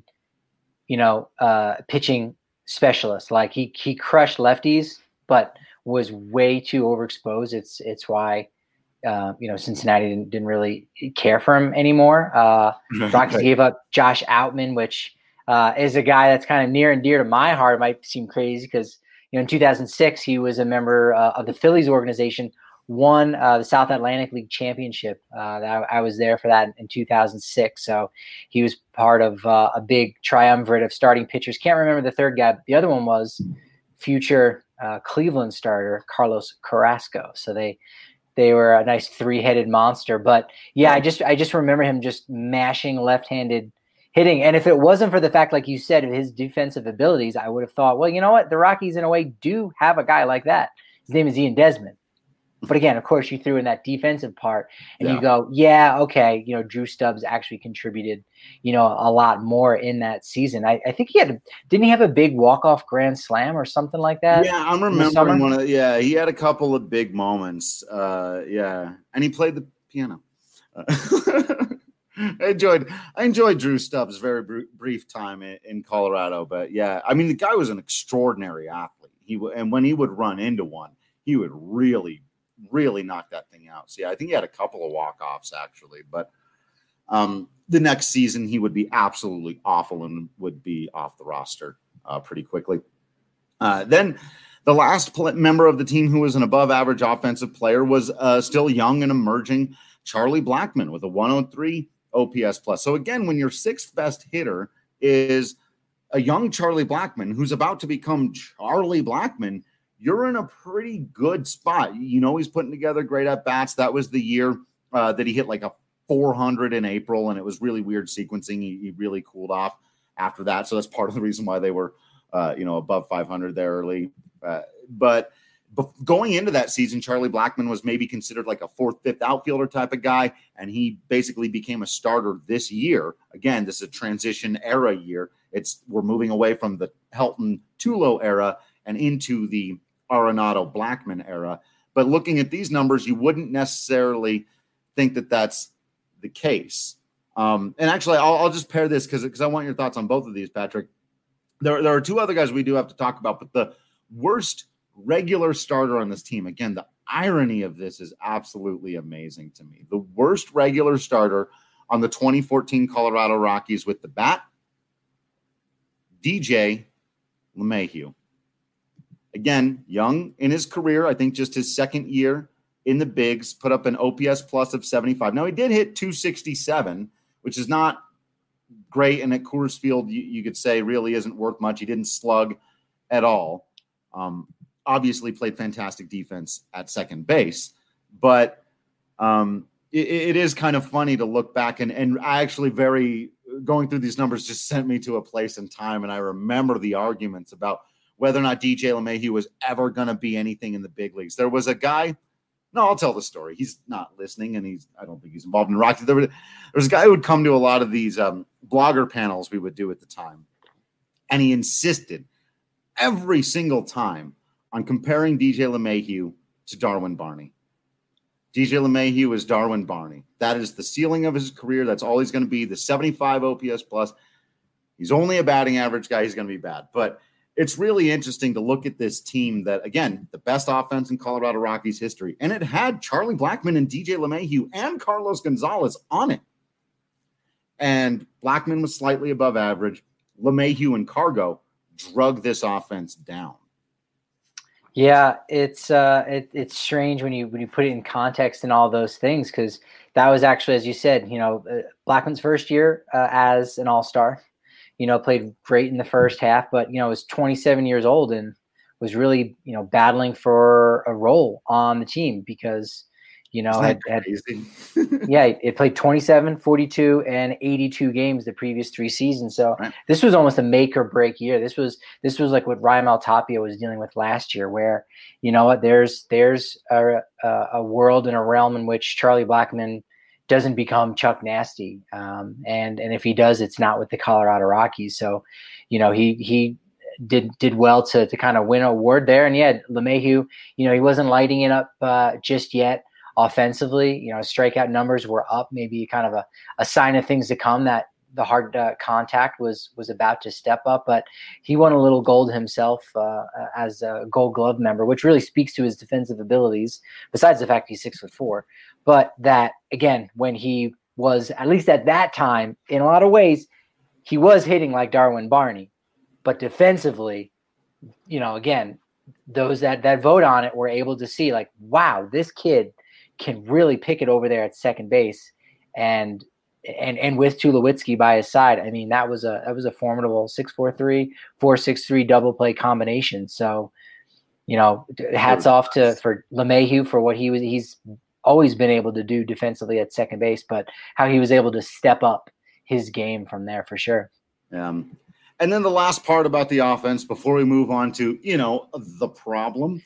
pitching specialist. Like he crushed lefties, but was way too overexposed. It's why Cincinnati didn't really care for him anymore. Rockies gave up Josh Outman, which is a guy that's kind of near and dear to my heart. It might seem crazy because in 2006 he was a member of the Phillies organization, won the South Atlantic League championship. I was there for that in 2006, so he was part of a big triumvirate of starting pitchers. Can't remember the third guy, but the other one was future Cleveland starter Carlos Carrasco. So they were a nice three-headed monster. But yeah, I just remember him just mashing left-handed hitting. And if it wasn't for the fact, like you said, of his defensive abilities, I would have thought, well, you know what? The Rockies in a way do have a guy like that. His name is Ian Desmond. But again, of course, you threw in that defensive part and you go, yeah, okay. Drew Stubbs actually contributed, a lot more in that season. I think didn't he have a big walk-off grand slam or something like that? Yeah, I'm remembering he had a couple of big moments. And he played the piano. I enjoyed Drew Stubbs' very brief time in Colorado, but yeah, I mean, the guy was an extraordinary athlete. And when he would run into one, he would really knock that thing out. So yeah, I think he had a couple of walk-offs actually, but the next season he would be absolutely awful and would be off the roster pretty quickly. Then the last member of the team who was an above-average offensive player was still young and emerging Charlie Blackmon with a 103 OPS plus. So again, when your sixth best hitter is a young Charlie Blackmon who's about to become Charlie Blackmon. You're in a pretty good spot. You know, he's putting together great at-bats. That was the year that he hit like a 400 in April, and it was really weird sequencing. He really cooled off after that. So that's part of the reason why they were, above 500 there early. But going into that season, Charlie Blackmon was maybe considered like a fourth, fifth outfielder type of guy, and he basically became a starter this year. Again, this is a transition era year. We're moving away from the Helton Tulo era and into the Arenado Blackmon era. But looking at these numbers, you wouldn't necessarily think that that's the case. And actually, I'll just pair this because I want your thoughts on both of these, Patrick. There are two other guys we do have to talk about, but the worst regular starter on this team, again, the irony of this is absolutely amazing to me. The worst regular starter on the 2014 Colorado Rockies with the bat, DJ LeMahieu. Again, young in his career, I think just his second year in the bigs, put up an OPS plus of 75. Now, he did hit 267, which is not great, and at Coors Field, you could say really isn't worth much. He didn't slug at all. Obviously played fantastic defense at second base, but it is kind of funny to look back, and I actually going through these numbers just sent me to a place in time, and I remember the arguments about whether or not DJ LeMahieu was ever going to be anything in the big leagues. There was a guy, I'll tell the story. He's not listening, and I don't think he's involved in Rockies. There was a guy who would come to a lot of these blogger panels we would do at the time, and he insisted every single time on comparing DJ LeMahieu to Darwin Barney. DJ LeMahieu is Darwin Barney. That is the ceiling of his career. That's all he's going to be, the 75 OPS plus. He's only a batting average guy. He's going to be bad. But it's really interesting to look at this team that, again, the best offense in Colorado Rockies history. And it had Charlie Blackmon and DJ LeMahieu and Carlos Gonzalez on it. And Blackmon was slightly above average. LeMahieu and Cargo drug this offense down. Yeah, it's strange when you put it in context and all those things, because that was actually, as you said, Blackmon's first year as an all-star. Played great in the first half, but was 27 years old and was really battling for a role on the team because it played 27, 42, and 82 games the previous 3 seasons. So This was almost a make or break year. This was like what Raimel Tapia was dealing with last year, where there's a world and a realm in which Charlie Blackmon doesn't become Chuck Nasty, and if he does, it's not with the Colorado Rockies. So he did well to kind of win an award there. And LeMahieu, he wasn't lighting it up just yet. Offensively, strikeout numbers were up, maybe kind of a sign of things to come, that the hard contact was about to step up. But he won a little gold himself as a Gold Glove member, which really speaks to his defensive abilities, besides the fact he's 6'4". But that, again, when he was, at least at that time, in a lot of ways, he was hitting like Darwin Barney. But defensively, again, those that vote on it were able to see, like, wow, this kid can really pick it over there at second base, and with Tulowitzki by his side. I mean, that was a formidable 6-4-3, 4-6-3 double play combination. So, hats off for LeMahieu for what he's always been able to do defensively at second base, but how he was able to step up his game from there for sure. And then the last part about the offense before we move on to, the problem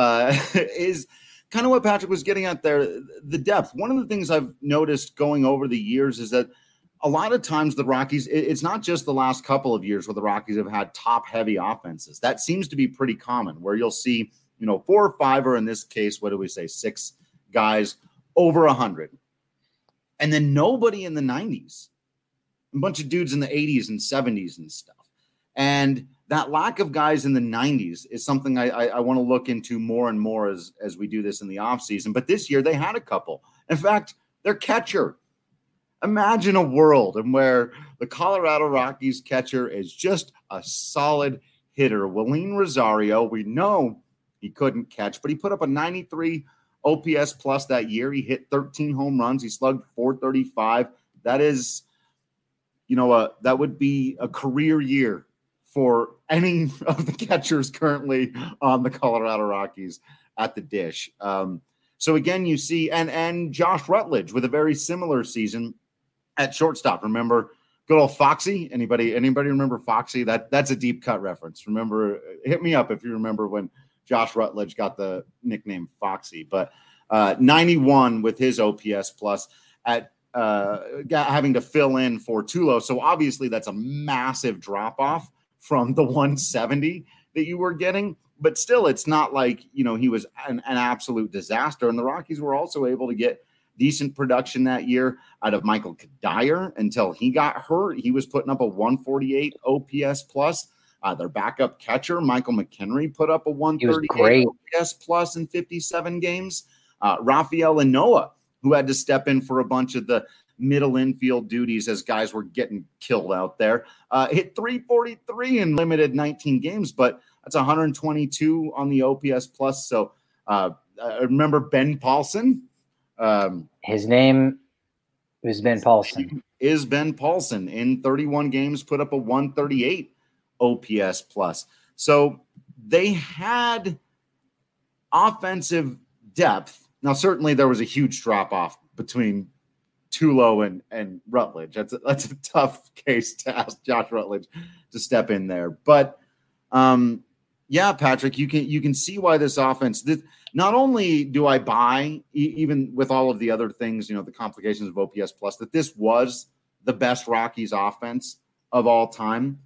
is kind of what Patrick was getting at there, the depth. One of the things I've noticed going over the years is that a lot of times the Rockies, it's not just the last couple of years where the Rockies have had top-heavy offenses. That seems to be pretty common, where you'll see, 4 or 5, or in this case, what do we say, 6 guys over 100. And then nobody in the 90s. A bunch of dudes in the 80s and 70s and stuff. And that lack of guys in the 90s is something I want to look into more and more as we do this in the offseason. But this year they had a couple. In fact, their catcher. Imagine a world in where the Colorado Rockies catcher is just a solid hitter. Willeen Rosario, we know he couldn't catch, but he put up a 93 OPS plus that year. He hit 13 home runs. He slugged .435. That is that would be a career year for any of the catchers currently on the Colorado Rockies at the dish. So again, you see, and Josh Rutledge with a very similar season at shortstop. Remember good old Foxy? Anybody remember Foxy? That's a deep cut reference. Remember, hit me up if you remember when Josh Rutledge got the nickname Foxy. But 91 with his OPS plus at having to fill in for Tulo. So obviously that's a massive drop off from the 170 that you were getting, but still it's not like, he was an absolute disaster. And the Rockies were also able to get decent production that year out of Michael Kadire until he got hurt. He was putting up a 148 OPS plus. Their backup catcher, Michael McHenry, put up a 138 OPS plus in 57 games. Rafael Anoa, who had to step in for a bunch of the middle infield duties as guys were getting killed out there, hit 343 in limited 19 games, but that's 122 on the OPS plus. So I remember Ben Paulson. His name is Ben Paulson. Is Ben Paulson in 31 games, put up a 138 OPS plus. So they had offensive depth. Now, certainly there was a huge drop off between Tulo and Rutledge. That's a tough case to ask Josh Rutledge to step in there. But yeah, Patrick, you can see why this offense. Not only do I buy, even with all of the other things, the complications of OPS plus, that this was the best Rockies offense of all time.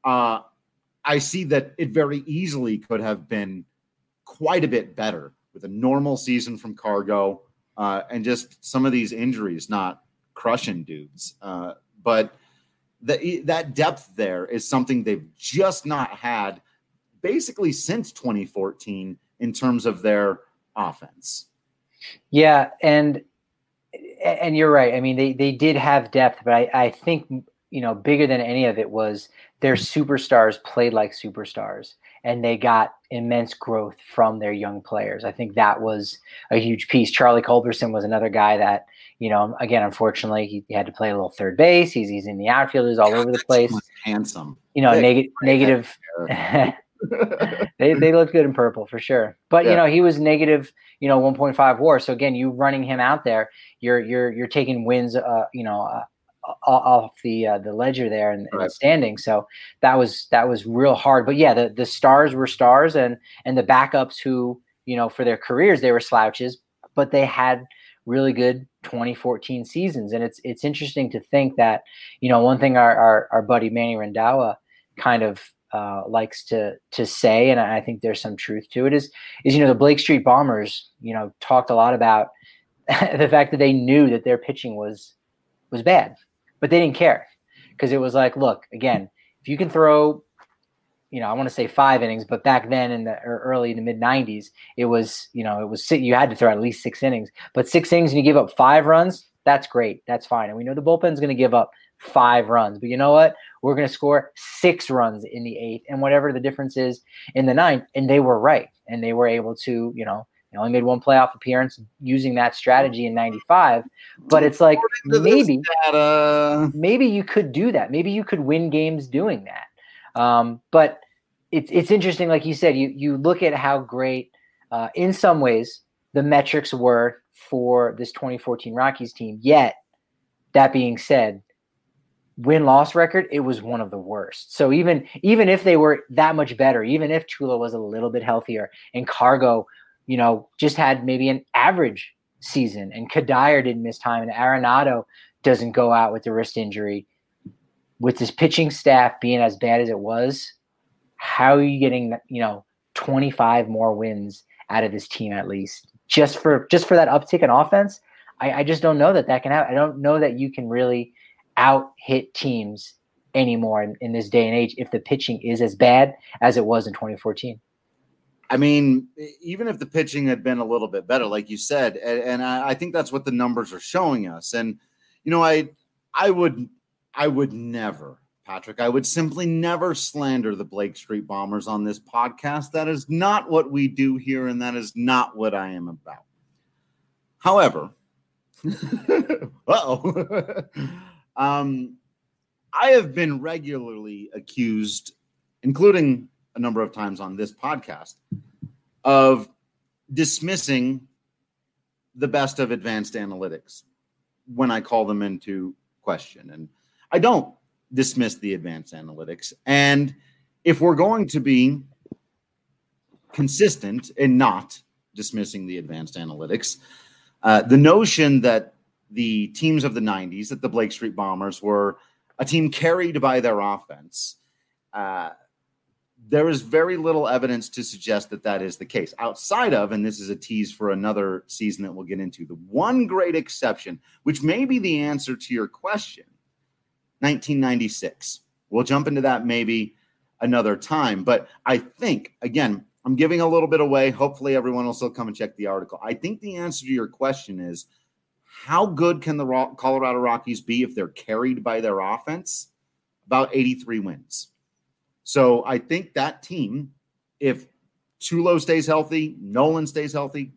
I see that it very easily could have been quite a bit better with a normal season from Cargo and just some of these injuries not crushing dudes. But that depth there is something they've just not had basically since 2014 in terms of their offense. Yeah, and you're right. I mean, they did have depth, but I think, bigger than any of it was their superstars played like superstars, and they got immense growth from their young players. I think that was a huge piece. Charlie Culberson was another guy that, again, unfortunately, he had to play a little third base. He's in the outfield. He's all over the place. Handsome. Negative. they look good in purple for sure. But he was negative, 1.5 WAR. So again, you running him out there, you're taking wins, off the ledger there and the standing. So that was real hard. But yeah, the stars were stars, and the backups who, for their careers they were slouches, but they had really good 2014 seasons. And it's interesting to think that, one thing our buddy Manny Rendawa kind of likes to say, and I think there's some truth to it, is the Blake Street Bombers, talked a lot about the fact that they knew that their pitching was bad, but they didn't care, because it was like, look, again, if you can throw, I want to say 5 innings, but back then in the early to mid 90s, it was you had to throw at least 6 innings, but 6 innings and you give up 5 runs, that's great. That's fine. And we know the bullpen's going to give up 5 runs, but you know what? We're going to score 6 runs in the 8th, and whatever the difference is in the 9th. And they were right. And they were able to, they only made 1 playoff appearance using that strategy in 95. But it's like, maybe you could do that. Maybe you could win games doing that. But it's interesting. Like you said, you look at how great, in some ways, the metrics were for this 2014 Rockies team. Yet, that being said, win-loss record, it was one of the worst. So even if they were that much better, even if Tulo was a little bit healthier and Cargo, just had maybe an average season, and Kadire didn't miss time, and Arenado doesn't go out with the wrist injury, with this pitching staff being as bad as it was, how are you getting 25 more wins out of this team at least just for that uptick in offense? I just don't know that can happen. I don't know that you can really out hit teams anymore in this day and age if the pitching is as bad as it was in 2014. I mean, even if the pitching had been a little bit better, like you said, and I think that's what the numbers are showing us. And, I would never, Patrick, I would simply never slander the Blake Street Bombers on this podcast. That is not what we do here, and that is not what I am about. However, I have been regularly accused, including a number of times on this podcast, of dismissing the best of advanced analytics when I call them into question. And I don't dismiss the advanced analytics. And if we're going to be consistent in not dismissing the advanced analytics, the notion that the teams of the 90s, that the Blake Street Bombers were a team carried by their offense, there is very little evidence to suggest that that is the case outside of, and this is a tease for another season that we'll get into, the one great exception, which may be the answer to your question, 1996. We'll jump into that maybe another time. But I think, again, I'm giving a little bit away. Hopefully everyone will still come and check the article. I think the answer to your question is, how good can the Colorado Rockies be if they're carried by their offense? About 83 wins. So I think that team, if Tulo stays healthy, Nolan stays healthy,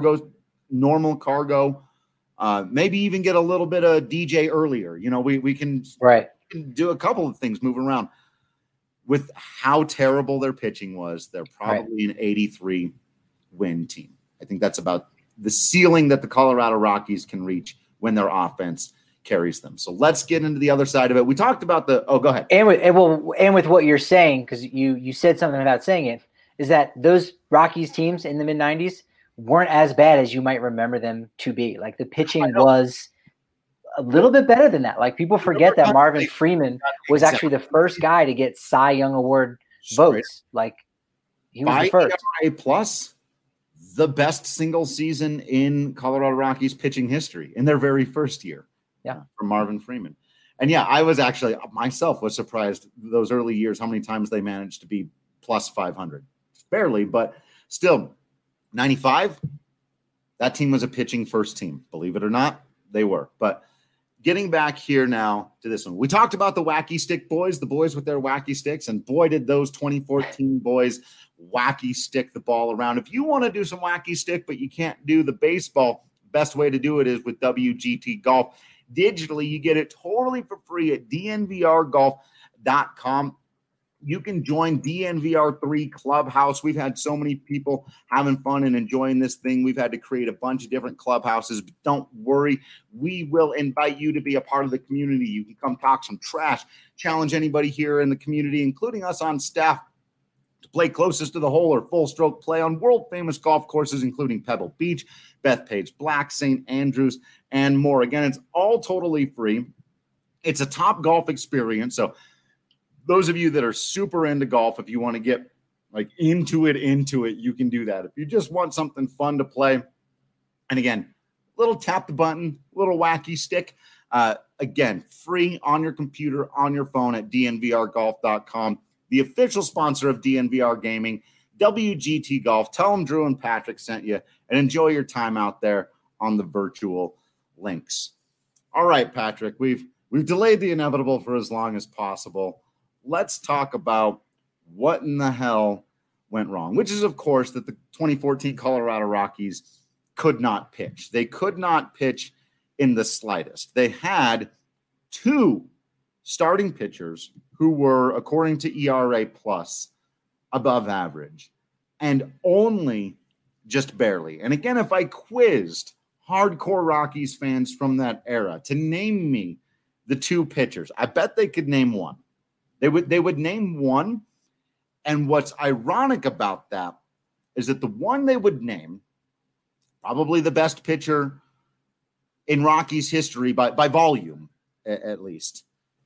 normal Cargo, maybe even get a little bit of DJ earlier. You know, we can do a couple of things, move around. With how terrible their pitching was, they're probably an 83 win team. I think that's about the ceiling that the Colorado Rockies can reach when their offense carries them. So let's get into the other side of it. We talked about go ahead. And with what you're saying, because you said something about saying it, is that those Rockies teams in the mid-90s weren't as bad as you might remember them to be. Like, the pitching was a little bit better than that. Like, people forget that Marvin Freeman was actually the first guy to get Cy Young Award votes. Like, he was the first. ERA plus, the best single season in Colorado Rockies pitching history in their very first year. Yeah, from Marvin Freeman. And yeah, I was actually myself was surprised those early years how many times they managed to be plus 500. Barely, but still 95. That team was a pitching first team. Believe it or not, they were. But getting back here now to this one. We talked about the wacky stick boys, the boys with their wacky sticks, and boy did those 2014 boys wacky stick the ball around. If you want to do some wacky stick but you can't do the baseball, best way to do it is with WGT Golf. Digitally, you get it totally for free at dnvrgolf.com. You can join DNVR3 Clubhouse. We've had so many people having fun and enjoying this thing. We've had to create a bunch of different clubhouses, but don't worry. We will invite you to be a part of the community. You can come talk some trash, challenge anybody here in the community, including us on staff, to play closest to the hole or full stroke play on world famous golf courses, including Pebble Beach, Bethpage Black, St. Andrews, and more. Again, it's all totally free. It's a top golf experience. So those of you that are super into golf, if you want to get like into it, you can do that. If you just want something fun to play, and again, little tap the button, little wacky stick, again, free on your computer, on your phone at dnvrgolf.com. The official sponsor of DNVR Gaming, WGT Golf. Tell them Drew and Patrick sent you, and enjoy your time out there on the virtual links. All right, Patrick, we've delayed the inevitable for as long as possible. Let's talk about what in the hell went wrong, which is, of course, that the 2014 Colorado Rockies could not pitch. They could not pitch in the slightest. They had two starting pitchers who were, according to ERA plus, above average, and only just barely. And again, if I quizzed hardcore Rockies fans from that era to name me the two pitchers, I bet they could name one. They would name one. And what's ironic about that is that the one they would name, probably the best pitcher in Rockies history by volume, at least,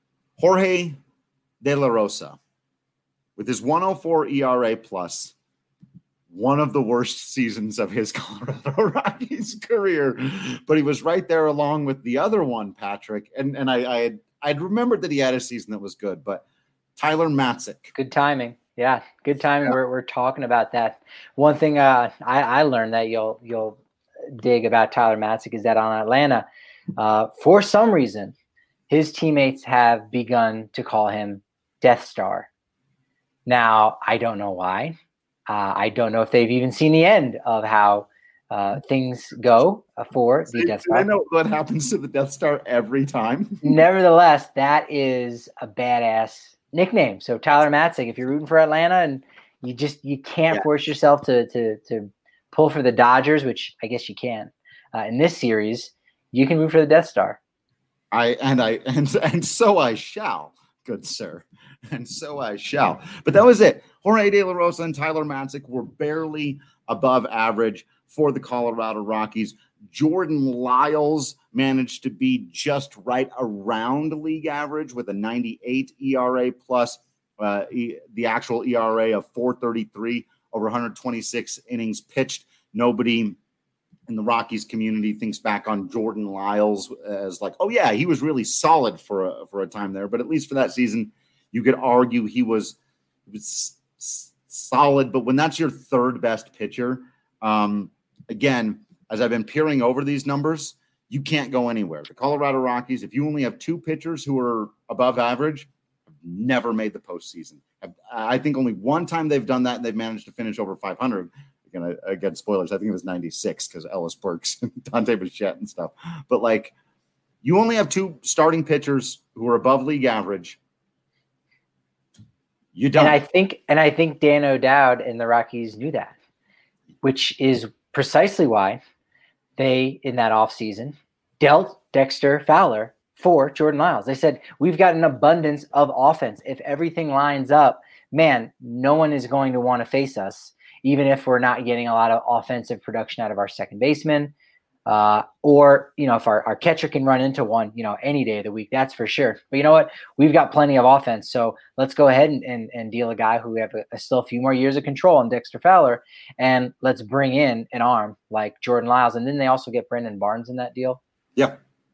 Jorge De La Rosa, with his 104 ERA plus, one of the worst seasons of his Colorado Rockies career. But he was right there along with the other one, Patrick. And I'd remembered that he had a season that was good, but Tyler Matzek. Good timing. Yeah, good timing. Yeah. We're talking about that. One thing I learned that you'll dig about Tyler Matzek is that on Atlanta, for some reason, his teammates have begun to call him Death Star. Now, I don't know why. I don't know if they've even seen the end of how things go for the Death Star. I know what happens to the Death Star every time. Nevertheless, that is a badass nickname. So Tyler Matzik, if you're rooting for Atlanta and you can't force yourself to pull for the Dodgers, which I guess you can in this series, you can root for the Death Star. And so I shall, good sir. And so I shall. But that was it. Jorge De La Rosa and Tyler Matzik were barely above average for the Colorado Rockies. Jordan Lyles managed to be just right around league average with a 98 ERA plus the actual ERA of 4.33 over 126 innings pitched. Nobody in the Rockies community thinks back on Jordan Lyles as like, oh yeah, he was really solid for a time there. But at least for that season, you could argue he was solid. But when that's your third best pitcher, again, as I've been peering over these numbers, you can't go anywhere. The Colorado Rockies, if you only have two pitchers who are above average, have never made the postseason. I think only one time they've done that, and they've managed to finish over 500. Again, spoilers, I think it was 96 because Ellis Burks and Dante Bichette and stuff. But, like, you only have two starting pitchers who are above league average. You don't. And I think Dan O'Dowd and the Rockies knew that, which is precisely why they, in that offseason, dealt Dexter Fowler for Jordan Lyles. They said, we've got an abundance of offense. If everything lines up, man, no one is going to want to face us, even if we're not getting a lot of offensive production out of our second baseman. Or, if our catcher can run into one, any day of the week, that's for sure. But you know what? We've got plenty of offense. So let's go ahead and deal a guy who we have still a few more years of control on Dexter Fowler. And let's bring in an arm like Jordan Lyles. And then they also get Brendan Barnes in that deal. Yeah.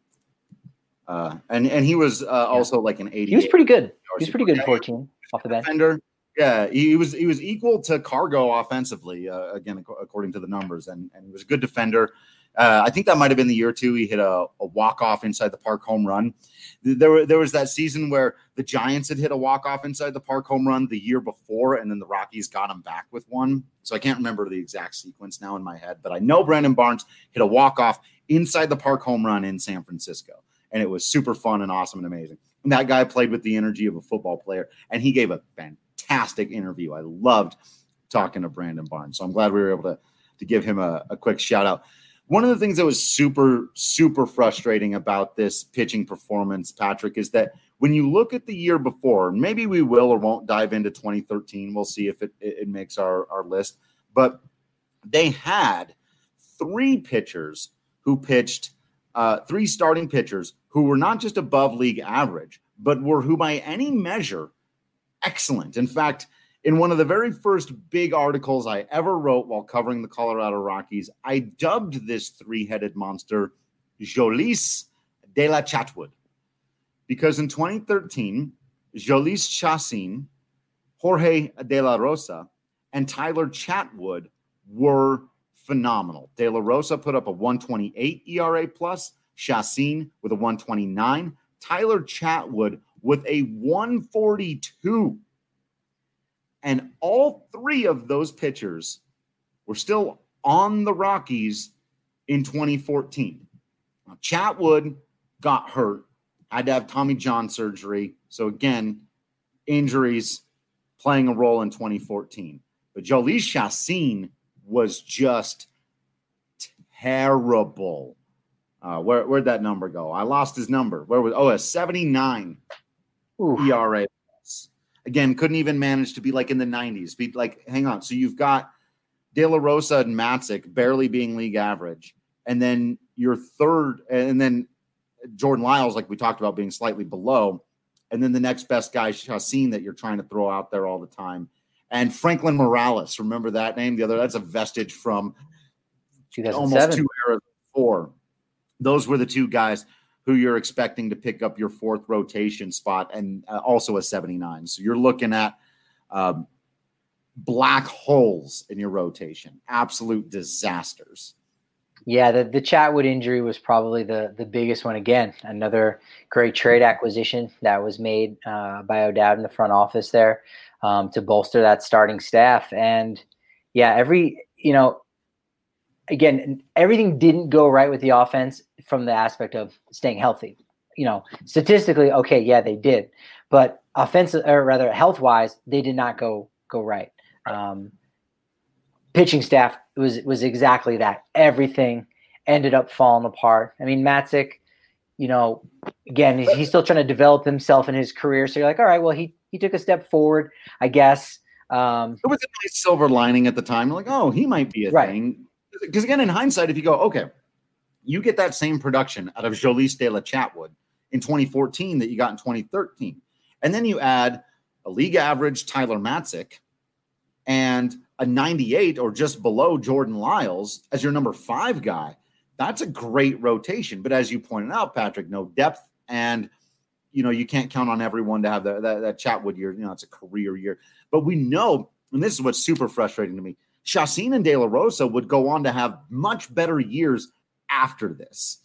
And he was also like an 80. He was pretty good. He was pretty good in 14 off the bench. Defender. Yeah, he was equal to Cargo offensively, again, according to the numbers. And he was a good defender. I think that might have been the year too. He hit a walk-off inside the park home run. There was that season where the Giants had hit a walk-off inside the park home run the year before, and then the Rockies got him back with one. So I can't remember the exact sequence now in my head, but I know Brendan Barnes hit a walk-off inside the park home run in San Francisco, and it was super fun and awesome and amazing. And that guy played with the energy of a football player, and he gave a fantastic interview. I loved talking to Brendan Barnes, so I'm glad we were able to give him a quick shout-out. One of the things that was super, super frustrating about this pitching performance, Patrick, is that when you look at the year before, and maybe we will or won't dive into 2013, we'll see if it makes our list, but they had three pitchers who pitched, three starting pitchers who were not just above league average, but were who by any measure excellent. In fact, in one of the very first big articles I ever wrote while covering the Colorado Rockies, I dubbed this three-headed monster Jhoulys de la Chatwood. Because in 2013, Jhoulys Chacín, Jorge De La Rosa, and Tyler Chatwood were phenomenal. De La Rosa put up a 1.28 ERA plus, Chacín with a 1.29, Tyler Chatwood with a 1.42. And all three of those pitchers were still on the Rockies in 2014. Now, Chatwood got hurt, had to have Tommy John surgery. So again, injuries playing a role in 2014. But Jhoulys Chacín was just terrible. Where'd that number go? I lost his number. Where was? Oh, a 79 ERA. Again, couldn't even manage to be like in the 90s. Be like, hang on. So you've got De La Rosa and Matzik barely being league average. And then your third, and then Jordan Lyles, like we talked about, being slightly below. And then the next best guy, Chacín, that you're trying to throw out there all the time. And Franklin Morales, remember that name? That's a vestige from 2007. Almost 2 eras before. Those were the two guys who you're expecting to pick up your fourth rotation spot, and also a 79. So you're looking at black holes in your rotation, absolute disasters. Yeah, the Chatwood injury was probably the biggest one. Again, another great trade acquisition that was made by O'Dowd in the front office there to bolster that starting staff. And yeah, again, everything didn't go right with the offense from the aspect of staying healthy. Statistically, okay, yeah, they did, but offensive, or rather health-wise, they did not go right. Pitching staff was exactly that. Everything ended up falling apart. I mean, Matzek, again, he's still trying to develop himself in his career. So you're like, all right, well, he took a step forward, I guess. It was a nice silver lining at the time. Like, oh, he might be a thing. Because again, in hindsight, if you go, okay, you get that same production out of Jhoulys de la Chatwood in 2014 that you got in 2013. And then you add a league average Tyler Matzek and a 98 or just below Jordan Lyles as your number 5 guy. That's a great rotation. But as you pointed out, Patrick, no depth. And, you can't count on everyone to have that Chatwood year. It's a career year. But we know, and this is what's super frustrating to me, Chacín and De La Rosa would go on to have much better years after this.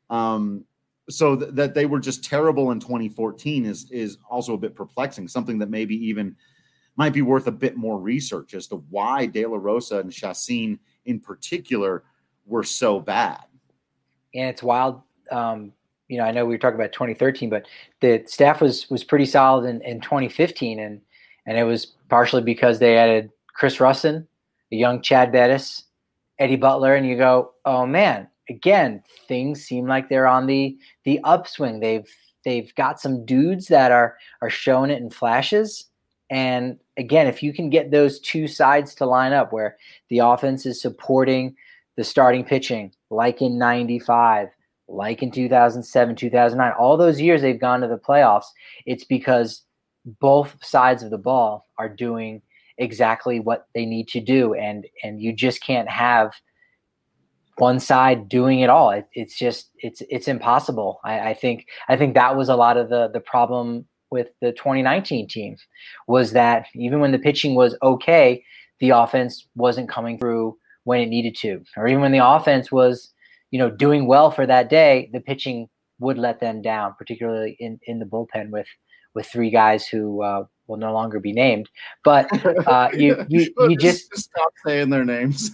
So that they were just terrible in 2014 is also a bit perplexing, something that maybe even might be worth a bit more research as to why De La Rosa and Chacín in particular were so bad. And it's wild. I know we were talking about 2013, but the staff was pretty solid in 2015. And it was partially because they added Chris Russin, a young Chad Bettis, Eddie Butler, and you go, oh man, again, things seem like they're on the upswing. They've got some dudes that are showing it in flashes. And again, if you can get those two sides to line up where the offense is supporting the starting pitching, like in 95, like in 2007, 2009, all those years they've gone to the playoffs, it's because both sides of the ball are doing exactly what they need to do. And you just can't have one side doing it all. It's impossible. I think that was a lot of the problem with the 2019 team, was that even when the pitching was okay, the offense wasn't coming through when it needed to, or even when the offense was, doing well for that day, the pitching would let them down, particularly in the bullpen with 3 guys who will no longer be named. But you just stop saying their names.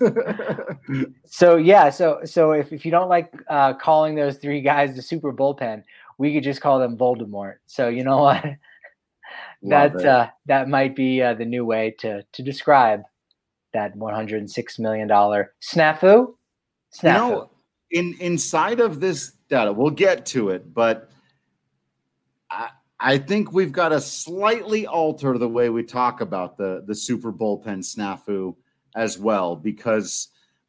So if you don't like calling those 3 guys the super bullpen, we could just call them Voldemort. So you know what? That might be the new way to describe that $106 million snafu. Inside of this data, we'll get to it, but I think we've got to slightly alter the way we talk about the super bullpen snafu as well, because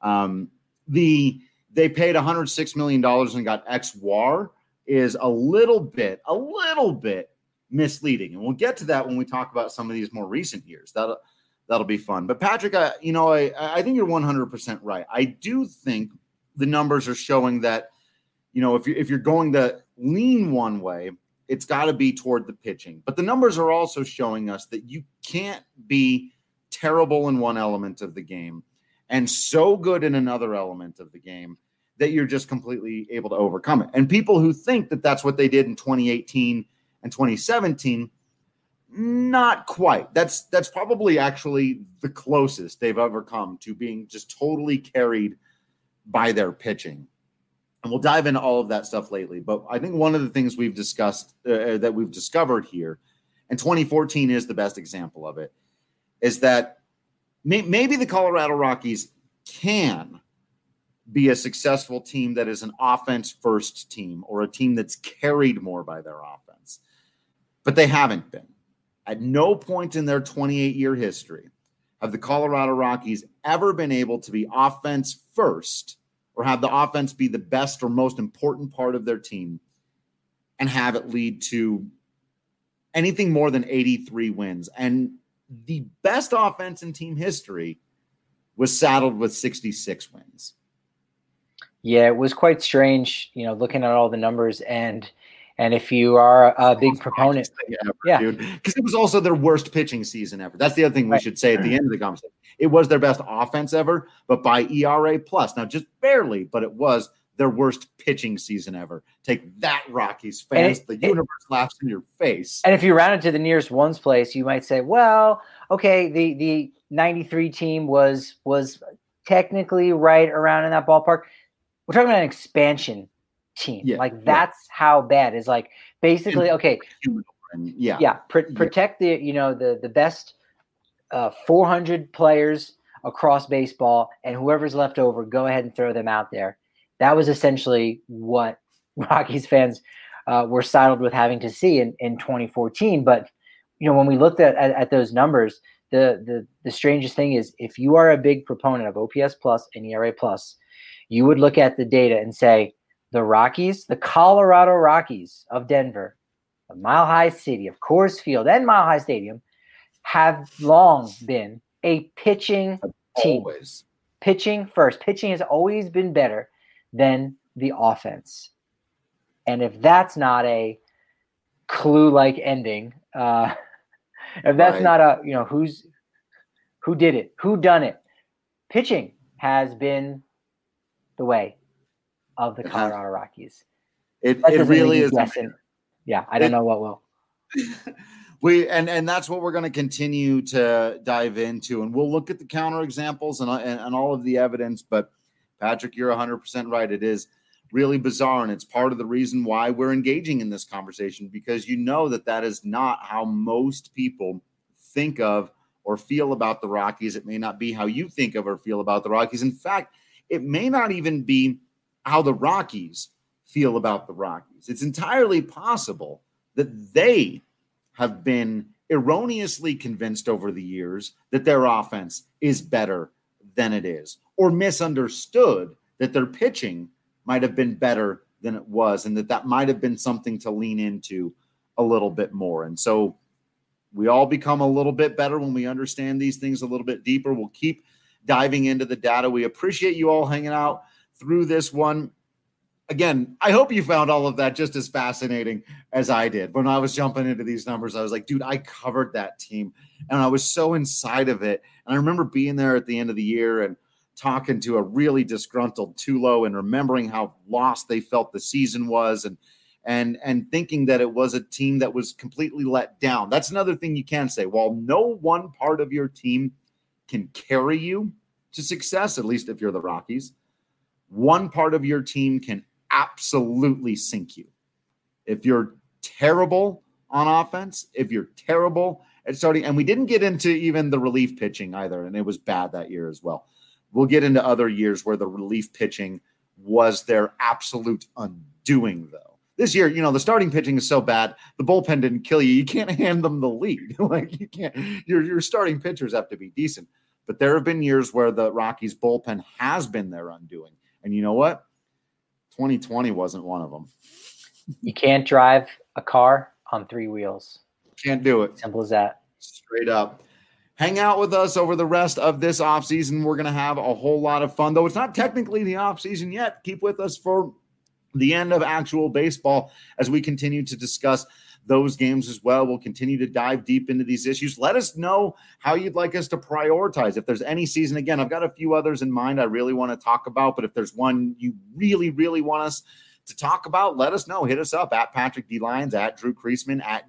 they paid $106 million and got ex-WAR is a little bit misleading. And we'll get to that when we talk about some of these more recent years. That'll be fun. But Patrick, I think you're 100% right. I do think the numbers are showing that, if you're going to lean one way, it's got to be toward the pitching. But the numbers are also showing us that you can't be terrible in one element of the game and so good in another element of the game that you're just completely able to overcome it. And people who think that that's what they did in 2018 and 2017, not quite. That's probably actually the closest they've ever come to being just totally carried by their pitching. And we'll dive into all of that stuff lately. But I think one of the things we've discussed that we've discovered here, and 2014 is the best example of it, is that maybe the Colorado Rockies can be a successful team that is an offense-first team, or a team that's carried more by their offense. But they haven't been. At no point in their 28-year history have the Colorado Rockies ever been able to be offense-first, or have the offense be the best or most important part of their team, and have it lead to anything more than 83 wins. And the best offense in team history was saddled with 66 wins. Yeah, it was quite strange, looking at all the numbers, and if you are a big proponent, because it was also their worst pitching season ever. That's the other thing we should say at the end of the conversation. It was their best offense ever, but by ERA plus. Now, just barely, but it was their worst pitching season ever. Take that, Rockies fans. The universe laughs in your face. And if you round it to the nearest ones place, you might say, well, okay, the 93 team was technically right around in that ballpark. We're talking about an expansion team. Yeah, that's how bad. It's like basically, okay. Protect the best 400 players across baseball, and whoever's left over, go ahead and throw them out there. That was essentially what Rockies fans were saddled with having to see in 2014. But when we looked at those numbers, the strangest thing is, if you are a big proponent of OPS plus and ERA plus, you would look at the data and say the Rockies, the Colorado Rockies of Denver, of Mile High City, of Coors Field, and Mile High Stadium, have long been a pitching team. Always. Pitching first. Pitching has always been better than the offense. And if that's not a Clue-like ending, if that's not a, who did it, who done it, pitching has been the way of the Colorado Rockies. It really is. Yeah, I don't know what will. And that's what we're going to continue to dive into, and we'll look at the counter examples and all of the evidence. But Patrick, you're 100% right. It is really bizarre, and it's part of the reason why we're engaging in this conversation, because that is not how most people think of or feel about the Rockies. It may not be how you think of or feel about the Rockies. In fact, it may not even be how the Rockies feel about the Rockies. It's entirely possible that they have been erroneously convinced over the years that their offense is better than it is, or misunderstood that their pitching might have been better than it was, and that might have been something to lean into a little bit more. And so we all become a little bit better when we understand these things a little bit deeper. We'll keep diving into the data. We appreciate you all hanging out through this one. Again, I hope you found all of that just as fascinating as I did. When I was jumping into these numbers, I was like, dude, I covered that team, and I was so inside of it. And I remember being there at the end of the year and talking to a really disgruntled Tulo and remembering how lost they felt the season was, and thinking that it was a team that was completely let down. That's another thing you can say. While no one part of your team can carry you to success, at least if you're the Rockies, one part of your team can absolutely sink you. If you're terrible on offense, if you're terrible at starting, and we didn't get into even the relief pitching either, and it was bad that year as well. We'll get into other years where the relief pitching was their absolute undoing, though. This year, the starting pitching is so bad, the bullpen didn't kill you. You can't hand them the lead. You can't. Your starting pitchers have to be decent. But there have been years where the Rockies bullpen has been their undoing. And you know what? 2020 wasn't one of them. You can't drive a car on three wheels. Can't do it. Simple as that. Straight up. Hang out with us over the rest of this offseason. We're going to have a whole lot of fun, though it's not technically the offseason yet. Keep with us for the end of actual baseball as we continue to discuss those games as well. We'll continue to dive deep into these issues. Let us know how you'd like us to prioritize. If there's any season, again, I've got a few others in mind I really want to talk about, but if there's one you really, really want us to talk about, let us know. Hit us up at Patrick D. Lyons, at Drew Creasman, at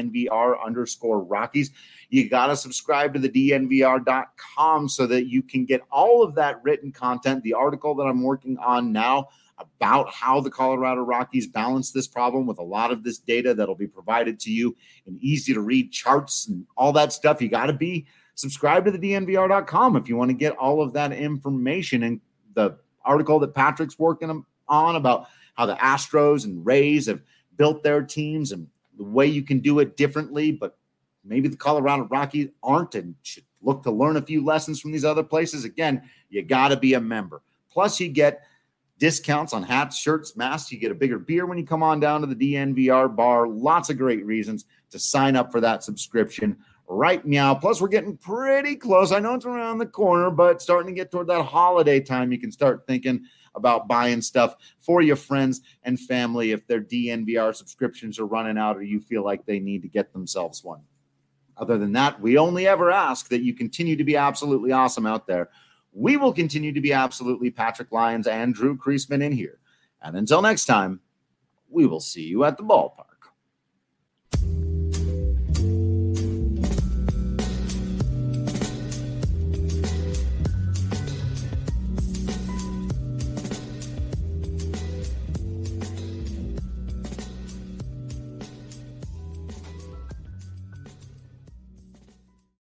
DNVR_Rockies. You got to subscribe to the DNVR.com so that you can get all of that written content, the article that I'm working on now about how the Colorado Rockies balance this problem with a lot of this data that'll be provided to you in easy to read charts and all that stuff. You got to be subscribed to the DNVR.com if you want to get all of that information. And the article that Patrick's working on about how the Astros and Rays have built their teams and the way you can do it differently, but maybe the Colorado Rockies aren't and should look to learn a few lessons from these other places. Again, you got to be a member. Plus, you get discounts on hats, shirts, masks. You get a bigger beer when you come on down to the DNVR bar. Lots of great reasons to sign up for that subscription right now. Plus, we're getting pretty close. I know it's around the corner, but starting to get toward that holiday time, you can start thinking about buying stuff for your friends and family if their DNVR subscriptions are running out or you feel like they need to get themselves one. Other than that, we only ever ask that you continue to be absolutely awesome out there. We will continue to be absolutely Patrick Lyons and Drew Creasman in here. And until next time, we will see you at the ballpark.